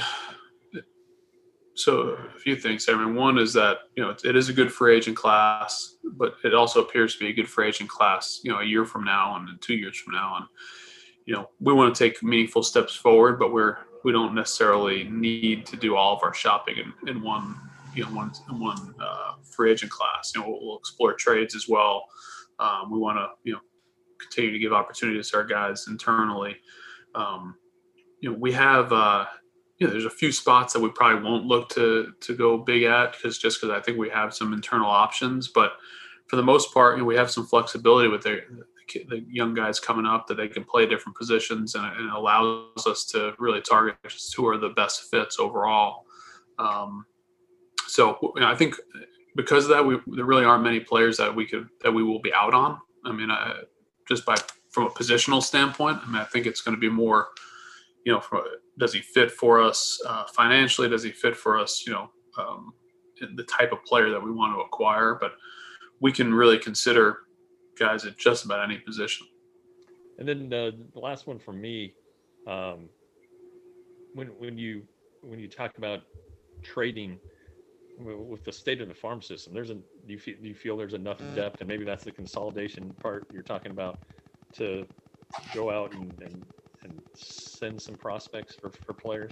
so a few things. I mean, one is that you know it, it is a good free agent class, but it also appears to be a good free agent class. You know, a year from now and two years from now, and you know, we want to take meaningful steps forward, but we're we don't necessarily need to do all of our shopping in, in one you know one one uh, free agent class. You know, we'll, we'll explore trades as well. Um, we want to you know continue to give opportunities to our guys internally. Um, you know, we have uh, you know there's a few spots that we probably won't look to to go big at because just because I think we have some internal options, but for the most part, you know, we have some flexibility with their. the young guys coming up that they can play different positions, and it allows us to really target who are the best fits overall. Um, so you know, I think because of that, we, there really aren't many players that we could, that we will be out on. I mean, I, just by, from a positional standpoint, I mean, I think it's going to be more, you know, from, does he fit for us uh, financially? Does he fit for us, you know, um, the type of player that we want to acquire? But we can really consider guys at just about any position. And then uh, the last one for me, um, when when you when you talk about trading with the state of the farm system, there's a do you feel, do you feel there's enough depth, and maybe that's the consolidation part you're talking about, to go out and and, and send some prospects for, for players?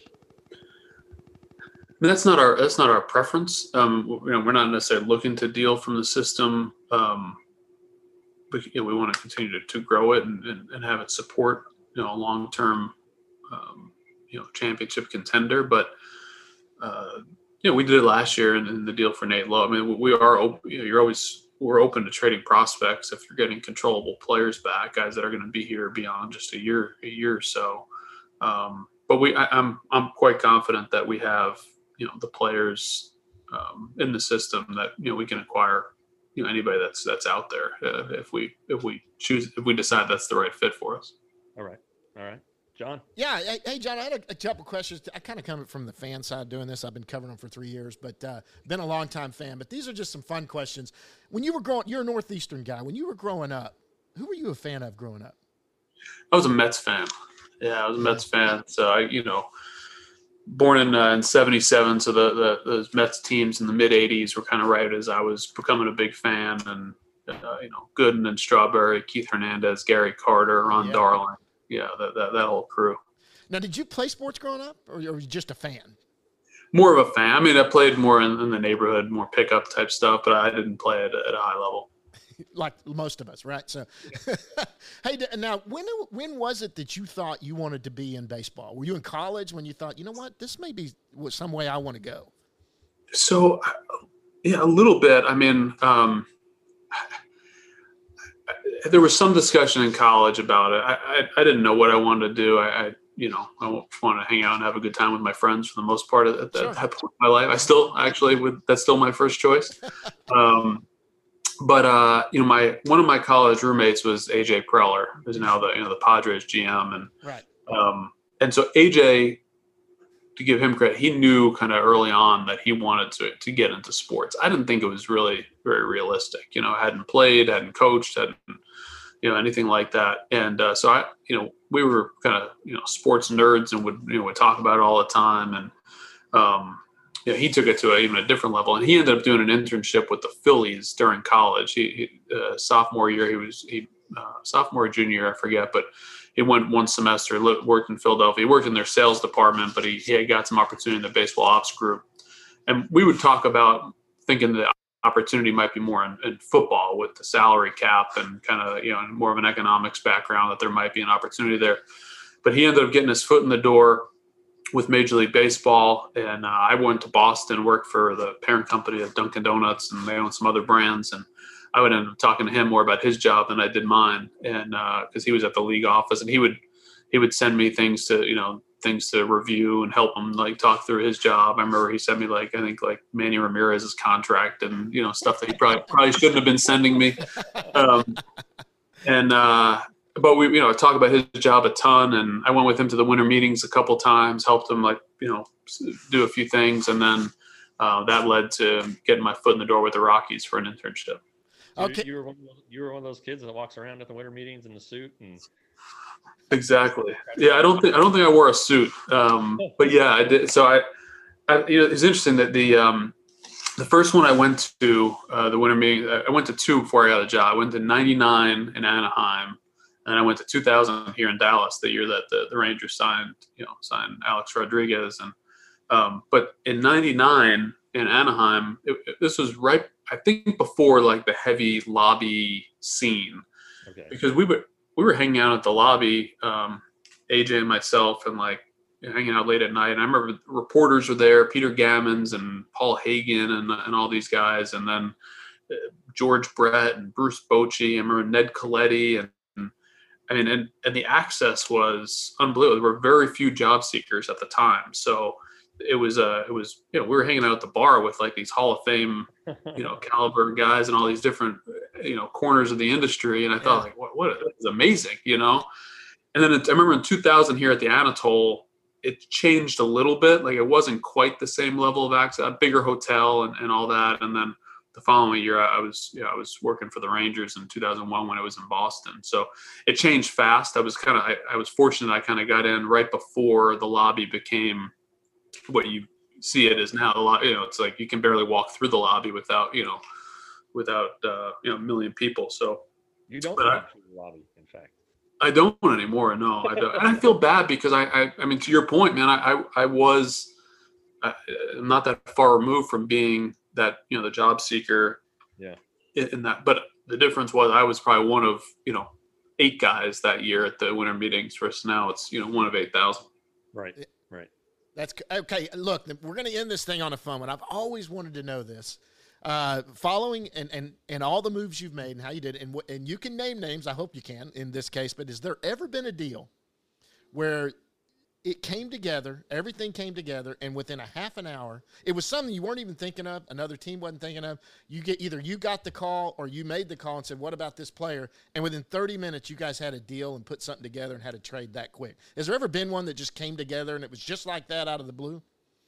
I mean, that's not our that's not our preference. Um, you know, we're not necessarily looking to deal from the system. Um, but you know, we want to continue to, to grow it and, and, and have it support, you know, a long-term, um, you know, championship contender. But, uh, you know, we did it last year in, in the deal for Nate Lowe. I mean, we are, you know, you're always we're open to trading prospects if you're getting controllable players back, guys that are going to be here beyond just a year, a year or so. Um, but we, I, I'm, I'm quite confident that we have, you know, the players um, in the system that, you know, we can acquire, you know, anybody that's, that's out there uh, if we, if we choose, if we decide that's the right fit for us. All right. All right. John? Yeah. Hey, hey, John, I had a, a couple questions. I kind of come from the fan side doing this. I've been covering them for three years, but uh, been a long-time fan. But these are just some fun questions. When you were growing, you're a Northeastern guy. When you were growing up, who were you a fan of growing up? I was a Mets fan. Yeah, I was a Mets fan. So, I, you know, born in uh, in seventy-seven, so the, the those Mets teams in the mid-eighties were kind of right as I was becoming a big fan. And, uh, you know, Gooden and Strawberry, Keith Hernandez, Gary Carter, Ron Yeah. Darling. Yeah, that, that that whole crew. Now, did you play sports growing up, or were you just a fan? More of a fan. I mean, I played more in, in the neighborhood, more pickup type stuff, but I didn't play at, at a high level. Like most of us, right? So, hey, d- now, when when was it that you thought you wanted to be in baseball? Were you in college when you thought, you know what, this may be some way I want to go? So, yeah, a little bit. I mean, um, there was some discussion in college about it. I, I, I didn't know what I wanted to do. I, I you know, I want to hang out and have a good time with my friends for the most part at that, Sure. that point in my life. I still actually would, that's still my first choice. Um, but, uh, you know, my, one of my college roommates was A J Preller, who's now the, you know, the Padres G M. And, Right. um, and so A J, to give him credit, he knew kind of early on that he wanted to, to get into sports. I didn't think it was really very realistic. You know, I hadn't played, hadn't coached, hadn't, you know, anything like that. And uh, so I, you know, we were kind of, you know, sports nerds and would, you know, would talk about it all the time. And, um, you know, he took it to a, even a different level. And he ended up doing an internship with the Phillies during college. He, he uh, sophomore year, he was, he, uh, sophomore, junior year, I forget, but he went one semester, lived, worked in Philadelphia. He worked in their sales department, but he, he had got some opportunity in the baseball ops group. And we would talk about thinking the opportunity might be more in, in football with the salary cap and kind of, you know, more of an economics background, that there might be an opportunity there. But he ended up getting his foot in the door with Major League Baseball. And uh, I went to Boston, worked for the parent company of Dunkin' Donuts, and they own some other brands. And I would end up talking to him more about his job than I did mine. And uh, cause he was at the league office, and he would, he would send me things to, you know, things to review and help him like talk through his job. I remember he sent me like, I think like Manny Ramirez's contract and, you know, stuff that he probably, probably shouldn't have been sending me. Um, and, uh, but we, you know, talk about his job a ton, and I went with him to the winter meetings a couple times, helped him like, you know, do a few things. And then uh, that led to getting my foot in the door with the Rockies for an internship. So Okay. You were, one of those, you were one of those kids that walks around at the winter meetings in the suit and Exactly. Yeah, I don't think I don't think I wore a suit, um, but yeah, I did. So I, I, you know, it's interesting that the um, the first one I went to uh, the winter meeting, I went to two before I got a job. I went to ninety-nine in Anaheim, and I went to two thousand here in Dallas, the year that the, the Rangers signed, you know, signed Alex Rodriguez. And um, but in ninety-nine in Anaheim, it, it, this was right, I think, before like the heavy lobby scene, okay. because we were. we were hanging out at the lobby, um, A J and myself, and like you know, hanging out late at night. And I remember reporters were there, Peter Gammons and Paul Hagen and, and all these guys. And then uh, George Brett and Bruce Bochy. I remember Ned Coletti. And, and I mean, and, and the access was unbelievable. There were very few job seekers at the time. So it was, uh, it was, you know, we were hanging out at the bar with like these Hall of Fame, you know, caliber guys and all these different, you know, corners of the industry. And I thought, yeah. like, what, what is amazing, you know? And then it, I remember in two thousand here at the Anatole, it changed a little bit. Like it wasn't quite the same level of access, a bigger hotel and, and all that. And then the following year, I was, you know, I was working for the Rangers in two thousand one when I was in Boston. So it changed fast. I was kind of, I, I was fortunate. I kind of got in right before the lobby became what you see it as now. A lot, you know, it's like you can barely walk through the lobby without, you know, without, uh, you know, a million people. So you don't but walk I, through the lobby, in fact. I don't anymore. No, I don't. And I feel bad because I, I, I mean, to your point, man, I, I, I was, I, I'm not that far removed from being that, you know, the job seeker. Yeah. In, in that, but the difference was I was probably one of, you know, eight guys that year at the winter meetings versus now it's, you know, one of eight thousand. Right. Right. That's okay. Look, we're going to end this thing on a fun one. I've always wanted to know this. uh, following and, and, and all the moves you've made and how you did it, and, wh- and you can name names, I hope you can in this case, but has there ever been a deal where it came together, everything came together, and within a half an hour, it was something you weren't even thinking of, another team wasn't thinking of, you get either you got the call or you made the call and said, what about this player? And within thirty minutes, you guys had a deal and put something together and had a trade that quick. Has there ever been one that just came together and it was just like that out of the blue?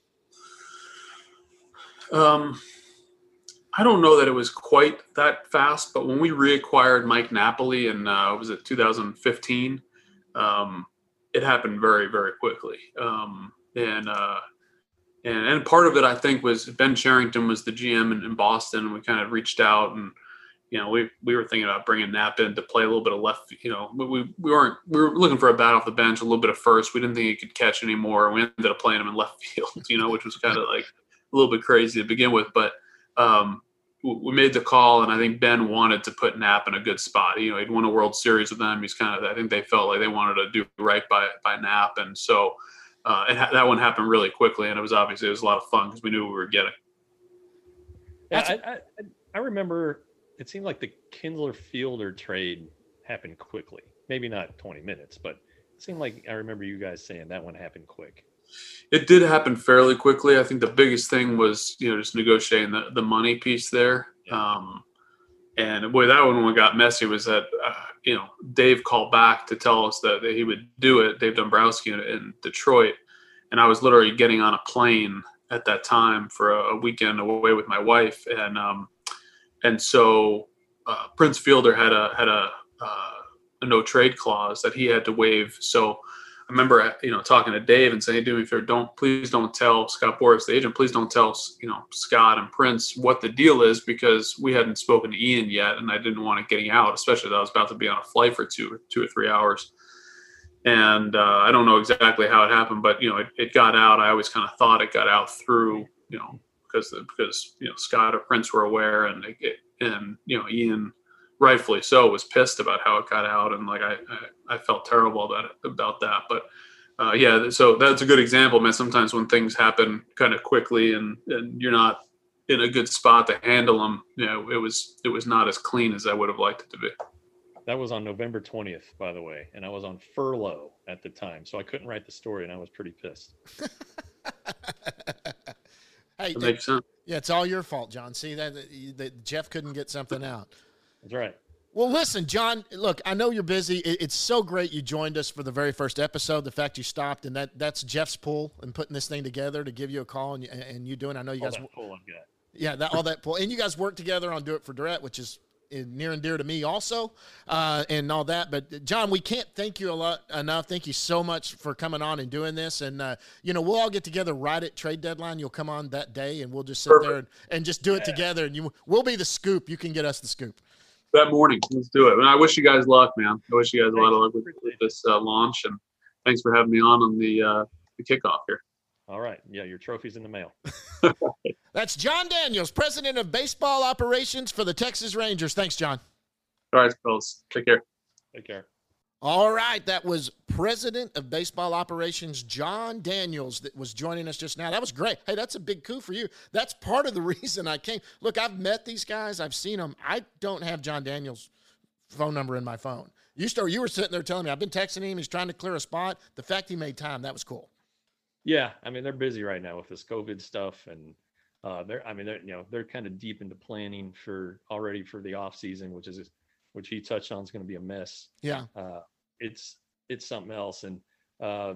Um, I don't know that it was quite that fast, but when we reacquired Mike Napoli in, uh, was it two thousand fifteen? Um, it happened very, very quickly. Um, and, uh, and, and part of it, I think, was Ben Cherington was the G M in, in Boston. And we kind of reached out and, you know, we, we were thinking about bringing Nap in to play a little bit of left, you know, we, we weren't, we were looking for a bat off the bench, a little bit of first. We didn't think he could catch anymore. We ended up playing him in left field, you know, which was kind of like a little bit crazy to begin with, but, um, we made the call, and I think Ben wanted to put Knapp in a good spot. You know, he'd won a World Series with them. He's kind of, I think they felt like they wanted to do right by by Knapp, and so uh, it ha- that one happened really quickly, and it was obviously it was a lot of fun because we knew what we were getting. Yeah, I, I I remember it seemed like the Kinsler Fielder trade happened quickly. Maybe not twenty minutes, but it seemed like I remember you guys saying that one happened quick. It did happen fairly quickly. I think the biggest thing was, you know, just negotiating the, the money piece there. Yeah. Um, and boy, that one got messy was that, uh, you know, Dave called back to tell us that, that he would do it, Dave Dombrowski in, in Detroit. And I was literally getting on a plane at that time for a, a weekend away with my wife. And, um, and so uh, Prince Fielder had a, had a, uh, a no trade clause that he had to waive. So I remember, you know, talking to Dave and saying, "Do me a favor, don't please don't tell Scott Boras, the agent, please don't tell, you know, Scott and Prince what the deal is because we hadn't spoken to Ian yet, and I didn't want it getting out, especially that I was about to be on a flight for two, two or three hours." And uh, I don't know exactly how it happened, but you know, it, it got out. I always kind of thought it got out through, you know, because because you know Scott or Prince were aware, and it, and you know Ian, rightfully so, was pissed about how it got out, and like I, I, I felt terrible about it, about that. But uh, yeah, so that's a good example, man. Sometimes when things happen kind of quickly and, and you're not in a good spot to handle them, you know, it was it was not as clean as I would have liked it to be. That was on November twentieth, by the way, and I was on furlough at the time, so I couldn't write the story, and I was pretty pissed. Hey, that makes sense. Yeah, it's all your fault, John. See that, that Jeff couldn't get something out. That's right. Well, listen, John, look, I know you're busy. It's so great you joined us for the very first episode, the fact you stopped, and that that's Jeff's pull in putting this thing together to give you a call, and, and you doing I know you all guys – that pull I've got. Yeah, that, all that pull. And you guys work together on Do It for Durrett, which is near and dear to me also, uh, and all that. But, John, we can't thank you a lot enough. Thank you so much for coming on and doing this. And, uh, you know, we'll all get together right at trade deadline. You'll come on that day, and we'll just sit Perfect. there and, and just do it yeah. together. And you, we'll be the scoop. You can get us the scoop. That morning, let's do it. And I wish you guys luck, man. I wish you guys a lot of luck with, with this uh, launch. And thanks for having me on on the, uh, the kickoff here. All right. Yeah, your trophy's in the mail. That's Jon Daniels, president of baseball operations for the Texas Rangers. Thanks, John. All right, fellas. Take care. Take care. All right. That was president of baseball operations, Jon Daniels, that was joining us just now. That was great. Hey, that's a big coup for you. That's part of the reason I came. Look, I've met these guys. I've seen them. I don't have Jon Daniels' phone number in my phone. You, start, you were sitting there telling me, I've been texting him. He's trying to clear a spot. The fact he made time, that was cool. Yeah, I mean, they're busy right now with this COVID stuff, and uh, they're, I mean, they're, you know, they're kind of deep into planning for already for the off season, which is, which he touched on is going to be a mess. Yeah, uh, it's it's something else, and uh,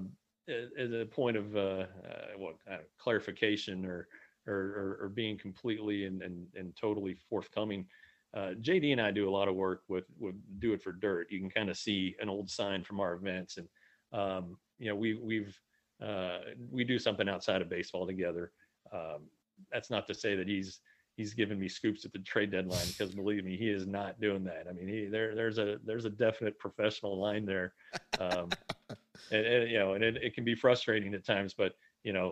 at a point of uh, uh, what uh, clarification or, or or being completely and and, and totally forthcoming. Uh, J D and I do a lot of work with with Do It for Dirt. You can kind of see an old sign from our events, and um, you know, we we've. Uh, we do something outside of baseball together. Um, that's not to say that he's he's giving me scoops at the trade deadline, because believe me, he is not doing that. I mean, he, there there's a there's a definite professional line there, um, and, and you know, and it, it can be frustrating at times. But you know,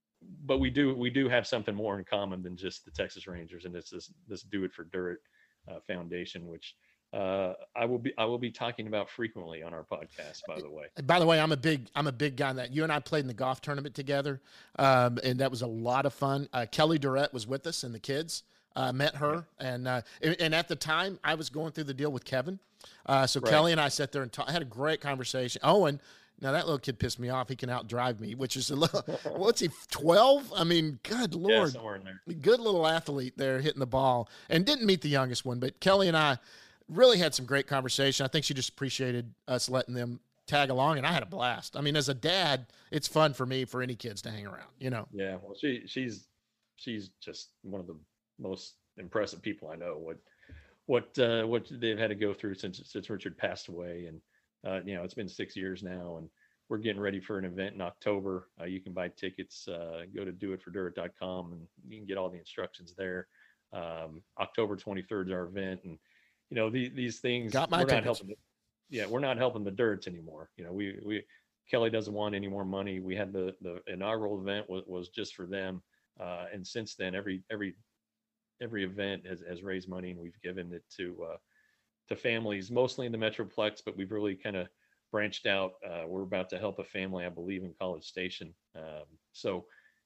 but we do we do have something more in common than just the Texas Rangers, and it's this this Do It for Dirt uh, Foundation, which. Uh, I will be I will be talking about frequently on our podcast. By the way, by the way, I'm a big I'm a big guy in that. You and I played in the golf tournament together, um, and that was a lot of fun. Uh, Kelly Durrett was with us and the kids. Uh, met her, and uh, and and at the time I was going through the deal with Kevin. Uh, so Right. Kelly and I sat there and ta- had a great conversation. Owen, now that little kid pissed me off. He can outdrive me, which is a little. What's he? twelve? I mean, good Yeah, lord, somewhere in there. good little athlete there hitting the ball, and didn't meet the youngest one, but Kelly and I really had some great conversation. I think she just appreciated us letting them tag along, and I had a blast. I mean, as a dad, it's fun for me for any kids to hang around. You know. Yeah, well, she she's she's just one of the most impressive people I know. What what uh, what they've had to go through since since Richard passed away, and uh, you know it's been six years now, and we're getting ready for an event in October. Uh, you can buy tickets. Uh, go to do it for dirt dot com, and you can get all the instructions there. Um, October twenty-third is our event, and you know these these things. Got my we're not tickets. helping. The, yeah, we're not helping the Dirts anymore. You know, we we Kelly doesn't want any more money. We had the the inaugural event was, was just for them, uh, and since then every every every event has, has raised money, and we've given it to uh, to families, mostly in the Metroplex, but we've really kind of branched out. Uh, we're about to help a family, I believe, in College Station. Um, so,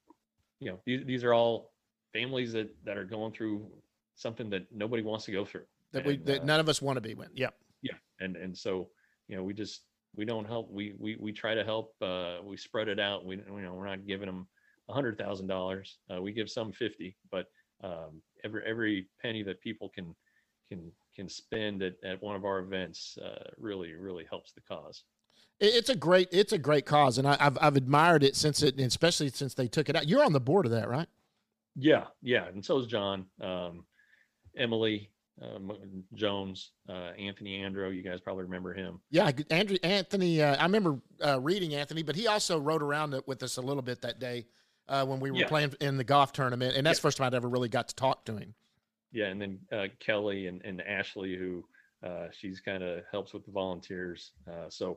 you know, these, these are all families that, that are going through something that nobody wants to go through. That we And, that uh, none of us want to be with. Yep. yeah. And, and so, you know, we just, we don't help. We, we, we try to help. Uh, we spread it out. We, you know, we're not giving them a hundred thousand dollars. Uh, we give some fifty, but um, every, every penny that people can, can, can spend at, at one of our events uh, really, really helps the cause. It- It's a great, it's a great cause, and I, I've I've admired it since it, and especially since they took it out. You're on the board of that, right? Yeah. Yeah. And so is John, um, Emily, um, Jones, uh, Anthony Andro. You guys probably remember him. Yeah, I- Andrew Anthony. Uh, I remember uh, reading Anthony, but he also rode around it with us a little bit that day uh, when we were Yeah. playing in the golf tournament, and that's Yeah. the first time I'd ever really got to talk to him. Yeah. And then uh, Kelly and, and Ashley, who uh, she's kind of helps with the volunteers. Uh, so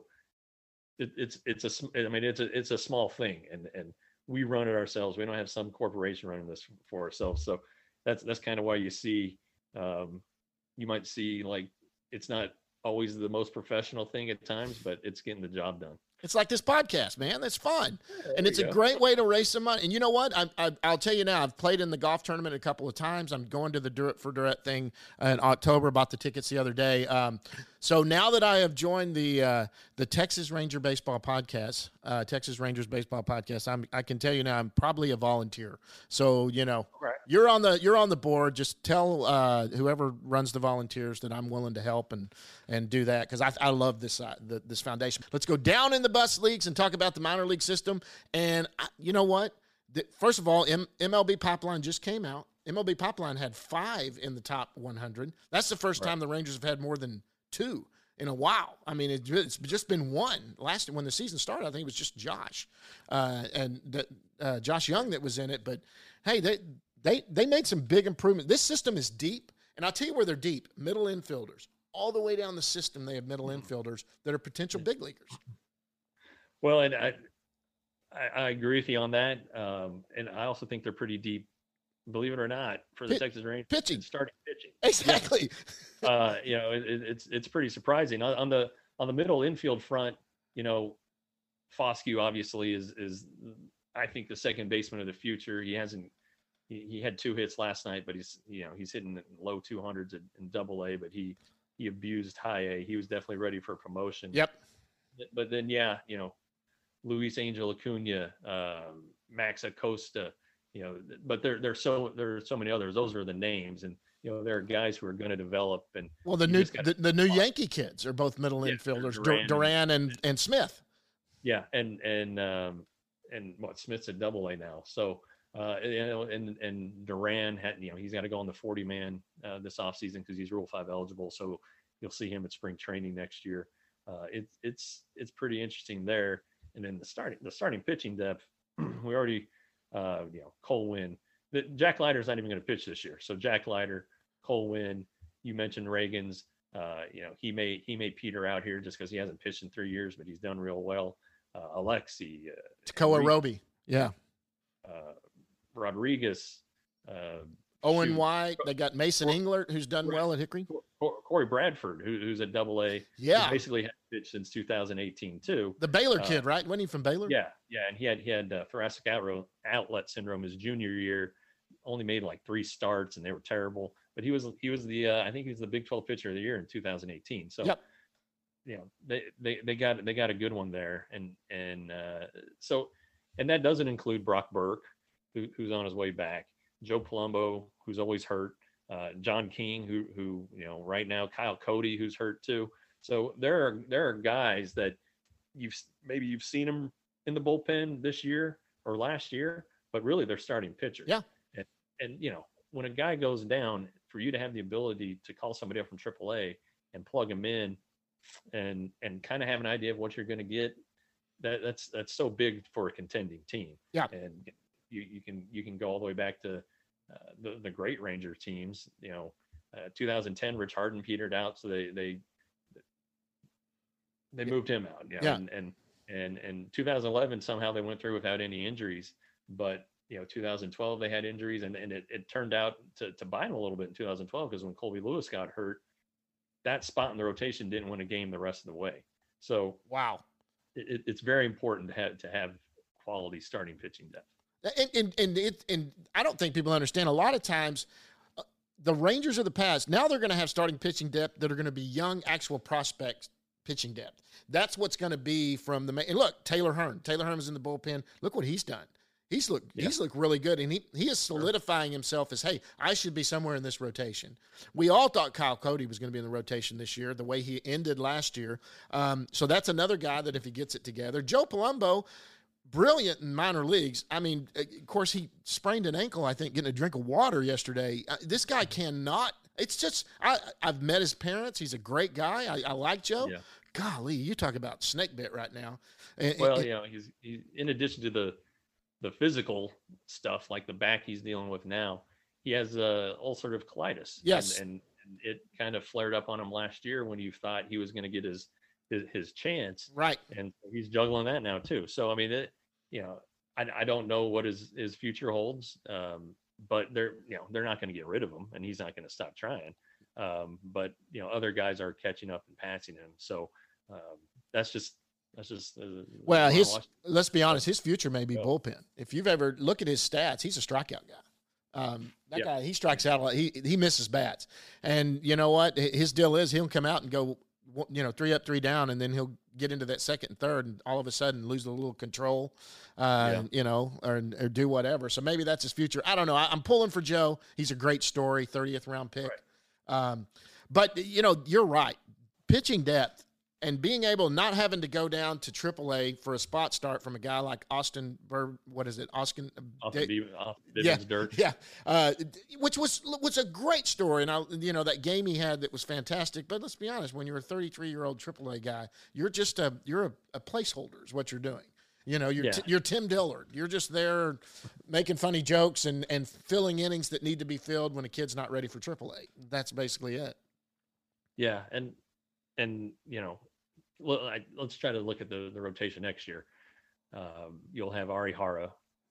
it, it's, it's a, sm- I mean, it's a, it's a small thing, and, and we run it ourselves. We don't have some corporation running this for ourselves. So that's, that's kind of why you see, um, you might see like, it's not always the most professional thing at times, but it's getting the job done. It's like this podcast, man. That's fun, and there it's you a go. great way to raise some money. And you know what? I, I, I'll tell you now. I've played in the golf tournament a couple of times. I'm going to the Do It for Direct thing in October. Bought the tickets the other day. Um, so now that I have joined the uh, the Texas Ranger Baseball Podcast, uh, Texas Rangers Baseball Podcast, I'm, I can tell you now I'm probably a volunteer. So you know, Right. you're on the you're on the board. Just tell uh, whoever runs the volunteers that I'm willing to help and and do that, because I, I love this uh, the, this foundation. Let's go down in the bus leagues and talk about the minor league system. And I, you know what? The, first of all, M- MLB Pipeline just came out. M L B Pipeline had five in the top one hundred. That's the first Right. time the Rangers have had more than two in a while. I mean, it, it's just been one. Last when the season started, I think it was just Josh uh, and the, uh, Josh Young that was in it. But hey, they they they made some big improvement. This system is deep, and I'll tell you where they're deep. Middle infielders, all the way down the system, they have middle infielders that are potential big leaguers. Well, and I, I, I agree with you on that. Um, and I also think they're pretty deep, believe it or not, for the Pit- Texas Rangers. pitching. in Starting pitching. Exactly. uh, you know, it, it- it's it's pretty surprising on, on the on the middle infield front. You know, Foscue obviously is is I think the second baseman of the future. He hasn't he, he had two hits last night, but he's you know he's hitting low two hundreds in, in Double A, but he he abused High A. He was definitely ready for promotion. Yep. But then yeah, you know, Luis Angel Acuna, um, Max Acosta. You know, but there there's so there are so many others. Those are the names, and you know there are guys who are going to develop. And Well, the you new just gotta- the, the new Yankee kids are both middle Yeah, infielders, Dur- Duran Duran, and- and, and Smith. yeah, and and um, and what Smith's at Double A now, so uh, you know, and and Duran had you know he's got to go on the forty man uh, this offseason because he's Rule Five eligible, so you'll see him at spring training next year. Uh, it's it's it's pretty interesting there, and then the starting the starting pitching depth, we already. Uh, you know, Cole Winn. The, Jack Leiter's not even going to pitch this year. So Jack Leiter, Cole Winn. You mentioned Reagan's. Uh, you know, he may he may peter out here just because he hasn't pitched in three years, but he's done real well. Uh, Alexi, uh, Takoa Enrique, Roby. Yeah. uh, Rodriguez, uh, Owen shoot, White. They got Mason Englert, who's done well at Hickory. Cor- Corey Bradford, who, who's at Double A. Yeah. He basically had pitched since two thousand eighteen too. The Baylor Uh, kid, right? Wasn't he from Baylor? Yeah, yeah, and he had he had uh, thoracic outro, outlet syndrome his junior year. only made like three starts and they were terrible. But he was he was the uh, I think he was the Big twelve pitcher of the year in two thousand eighteen. So yep. you know they, they they got they got a good one there, and and uh, so and that doesn't include Brock Burke, who, who's on his way back, Joe Palumbo, who's always hurt, uh, John King, who who you know right now, Kyle Cody, who's hurt too. So there are there are guys that you've maybe you've seen them in the bullpen this year or last year, but really they're starting pitchers. Yeah. And, and you know, when a guy goes down, for you to have the ability to call somebody up from triple A and plug them in and and kind of have an idea of what you're going to get, that that's that's so big for a contending team. Yeah. And you you can you can go all the way back to uh, the the great Ranger teams. You know, uh, two thousand ten, Rich Harden petered out, so they they they moved him out. You know, yeah. And and and and two thousand eleven, somehow they went through without any injuries. But you know, two thousand twelve they had injuries, and, and it, it turned out to, to bite them a little bit in two thousand twelve, because when Colby Lewis got hurt, that spot in the rotation didn't win a game the rest of the way. So wow, it, it's very important to have to have quality starting pitching depth. And and and, it, and I don't think people understand. A lot of times, uh, the Rangers of the past, now they're going to have starting pitching depth that are going to be young, actual prospects pitching depth. That's what's going to be from the – and look, Taylor Hearn. Taylor Hearn is in the bullpen. Look what he's done. He's looked yeah. he's looked really good, and he, he is solidifying himself as, hey, I should be somewhere in this rotation. We all thought Kyle Cody was going to be in the rotation this year, the way he ended last year. Um, so that's another guy that if he gets it together. Joe Palumbo, brilliant in minor leagues. I mean, of course, he sprained an ankle, I think, getting a drink of water yesterday. Uh, this guy cannot – it's just I, – I've met his parents. He's a great guy. I, I like Joe. Yeah. Golly, you talk about snake bit right now. And, well, and, you know, he's, he's in addition to the the physical stuff like the back he's dealing with now, he has uh, ulcerative colitis. Yes, and, and, and it kind of flared up on him last year when you thought he was going to get his, his his chance. Right, and he's juggling that now too. So I mean, it, you know, I I don't know what his his future holds, um, but they're you know they're not going to get rid of him, and he's not going to stop trying. Um, but you know, other guys are catching up and passing him. So. Um, that's just that's just uh, well his let's be honest, his future may be yeah. bullpen. If you've ever look at his stats, he's a strikeout guy. Um, that yeah. guy, he strikes out a lot. He he misses bats, and you know what his deal is, he'll come out and go you know three up three down, and then he'll get into that second and third, and all of a sudden lose a little control, uh, yeah. you know, or, or do whatever. So maybe that's his future. I don't know. I, I'm pulling for Joe. He's a great story, thirtieth round pick. Right. Um, but you know, you're right. Pitching depth. And being able, not having to go down to triple A for a spot start from a guy like Austin, Bur- what is it, Austin? Austin D- yeah, Dirt. Yeah, uh, which was was a great story. And, I, you know, that game he had that was fantastic. But let's be honest, when you're a thirty-three-year-old triple A guy, you're just a, you're a, a placeholder is what you're doing. You know, you're, yeah. t- you're Tim Dillard. You're just there making funny jokes and, and filling innings that need to be filled when a kid's not ready for triple A. That's basically it. Yeah, and and you know, well, I, let's try to look at the, the rotation next year. Um, you'll have Ari Hara.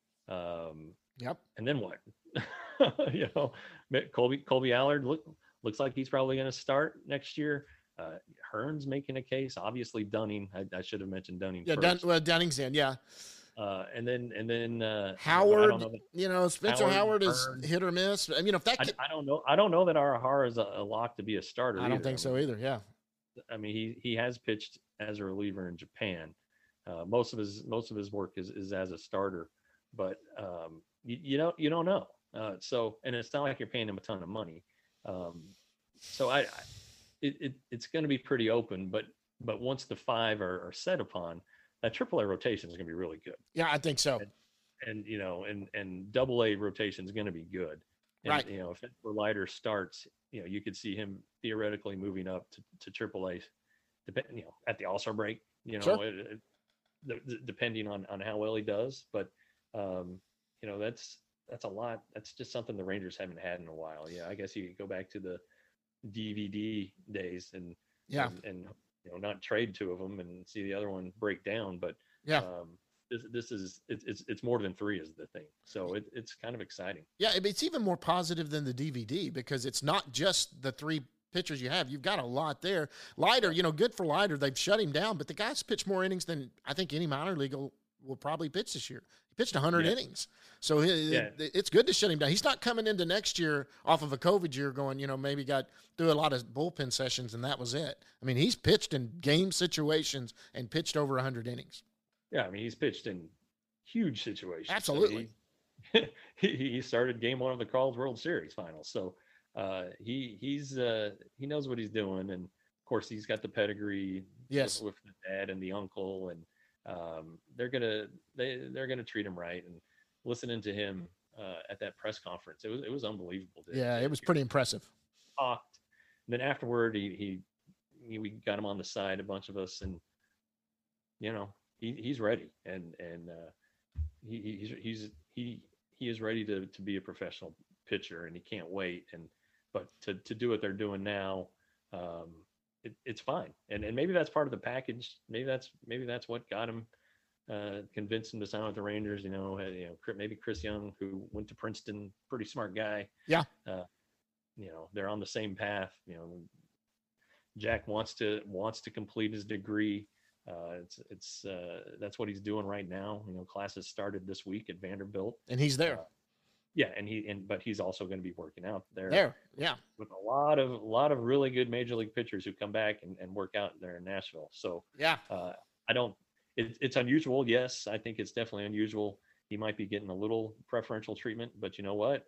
Um, yep. And then what? you know, Colby Colby Allard look, looks like he's probably going to start next year. Uh, Hearn's making a case. Obviously, Dunning. I, I should have mentioned Dunning. Yeah, Dun- well, Dunning's in. Yeah. Uh, and then and then uh, Howard. know that, you know, Spencer Howard, Howard is Hearn. hit or miss. I mean, if that. Kid, I, I don't know. I don't know that Ari Hara is a, a lock to be a starter. I don't either. think I so mean, either. Yeah. I mean, he he has pitched as a reliever in Japan. Uh, most of his most of his work is, is as a starter, but um, you, you know you don't know. Uh, so and it's not like you're paying him a ton of money. Um, so I, I it, it it's going to be pretty open. But but once the five are, are set upon, that triple A rotation is going to be really good. Yeah, I think so. And, and you know, and and double A rotation is going to be good. And, right. You know, if Leiter starts, you know, you could see him theoretically moving up to, to triple A, depend, you know, at the All-Star break, you know, sure. it, it, the, depending on, on how well he does. But, um, you know, that's, that's a lot. That's just something the Rangers haven't had in a while. Yeah. I guess you could go back to the D V D days and, yeah. and, and you know, not trade two of them and see the other one break down. But, yeah. Um, This, this is it's, it's it's more than three is the thing, so it, it's kind of exciting. Yeah, it's even more positive than the D V D because it's not just the three pitchers you have. You've got a lot there. Leiter, you know, good for Leiter. They've shut him down, but the guy's pitched more innings than I think any minor league will probably pitch this year. He pitched one hundred Yeah. innings. So it, Yeah. it, it's good to shut him down. He's not coming into next year off of a COVID year going, you know, maybe got through a lot of bullpen sessions and that was it. I mean, he's pitched in game situations and pitched over one hundred innings. Yeah, I mean, he's pitched in huge situations. Absolutely. I mean, he, he started game one of the Carl's World Series finals. So uh, he he's uh, he knows what he's doing. And, of course, he's got the pedigree Yes. with, with the dad and the uncle. And um, they're going to they, they're gonna treat him right. And listening to him uh, at that press conference, it was it was unbelievable. To, Yeah, to it was hear pretty impressive. talked. And then afterward, he, he he we got him on the side, a bunch of us, and you know he, he's ready, and and uh, he he's he's he he is ready to to be a professional pitcher, and he can't wait. And but to to do what they're doing now, um, it, it's fine. And and maybe that's part of the package. Maybe that's maybe that's what got him. Uh, convinced him to sign with the Rangers. You know, had, you know, maybe Chris Young, who went to Princeton, pretty smart guy. Yeah. Uh, you know, they're on the same path. You know, Jack wants to wants to complete his degree. Uh, it's it's uh, that's what he's doing right now. You know, classes started this week at Vanderbilt, And he's there. Uh, yeah, and he and but he's also going to be working out there. There. Yeah. With a lot of a lot of really good major league pitchers who come back and, and work out there in Nashville. So Yeah. uh, I don't. It, it's unusual. Yes, I think it's definitely unusual. He might be getting a little preferential treatment, but you know what?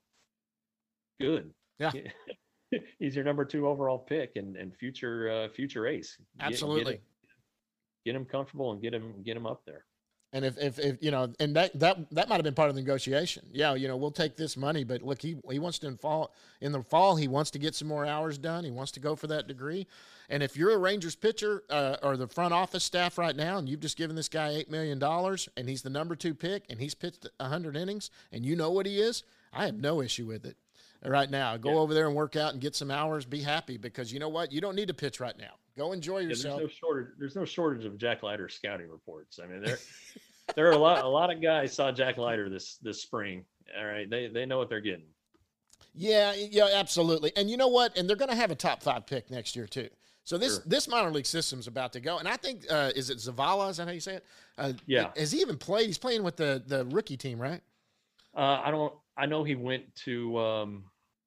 Good. Yeah. He's your number two overall pick and, and future uh, future ace. Get- Absolutely. Get, him, get him comfortable and get him get him up there. And if, if, if, you know, and that, that, that might've been part of the negotiation. Yeah. You know, we'll take this money, but look, he, he wants to in fall in the fall, he wants to get some more hours done. He wants to go for that degree. And if you're a Rangers pitcher uh, or the front office staff right now, and you've just given this guy eight million dollars and he's the number two pick and he's pitched one hundred innings and you know what he is, I have no issue with it right now. Go Yeah. over there and work out and get some hours, be happy, because you know what? You don't need to pitch right now. Go enjoy Yeah, yourself. there's no shortage. There's no shortage of Jack Leiter scouting reports. I mean, there there are a lot a lot of guys saw Jack Leiter this this spring. All right, they they know what they're getting. Yeah, yeah, absolutely. And you know what? And they're going to have a top five pick next year too. So this Sure. this minor league system's about to go. And I think uh, is it Zavala? Is that how you say it? Uh, Yeah. Has he even played? He's playing with the the rookie team, right? Uh, I don't. I know he went to. Um,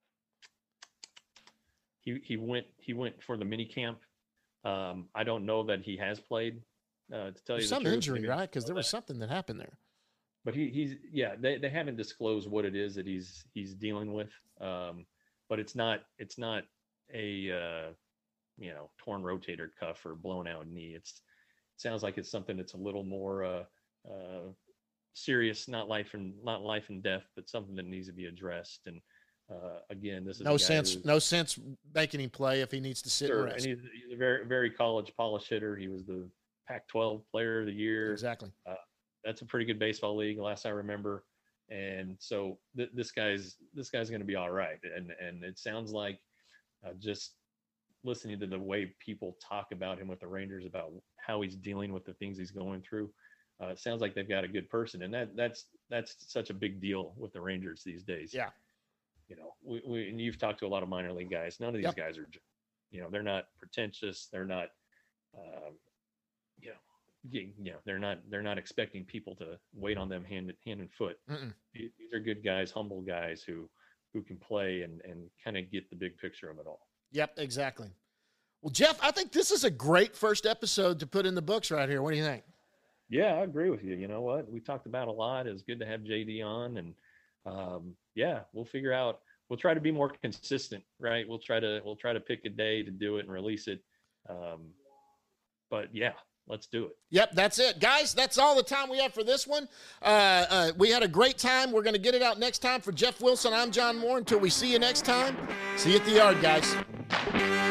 he he went he went for the mini camp. Um, I don't know that he has played. Uh, to tell There's you the some truth. injury, Maybe- right? Because there was something that happened there. But he he's yeah. They they haven't disclosed what it is that he's he's dealing with. Um, but it's not it's not a uh, you know torn rotator cuff or blown out knee. It's it sounds like it's something that's a little more uh, uh, serious, not life and not life and death, but something that needs to be addressed. And uh, again, this is a No guy sense. who's- No sense making him play if he needs to sit Sure, and and rest. he's, he's a very very college polish hitter. He was the Pac twelve Player of the Year. Exactly. That's a pretty good baseball league, last I remember. And so th- this guy's this guy's going to be all right. And and it sounds like uh, just listening to the way people talk about him with the Rangers, about how he's dealing with the things he's going through. Uh, it sounds like they've got a good person, and that that's that's such a big deal with the Rangers these days. Yeah. You know, we, we and you've talked to a lot of minor league guys. None of these Yep. guys are, you know, they're not pretentious. They're not, um, you know. You know, they're not they're not expecting people to wait on them hand hand and foot. Mm-mm. These these are good guys, humble guys who who can play and and kind of get the big picture of it all. Yep. Exactly. Well, Jeff, I think this is a great first episode to put in the books right here. What do you think? Yeah, I agree with you. You know what? We talked about a lot. It was good to have J D on, and um, yeah, we'll figure out. We'll try to be more consistent, right? We'll try to we'll try to pick a day to do it and release it. Um, but yeah. Let's do it. Yep, that's it. Guys, that's all the time we have for this one. Uh, uh, we had a great time. We're going to get it out next time. For Jeff Wilson, I'm John Moore. Until we see you next time, see you at the yard, guys.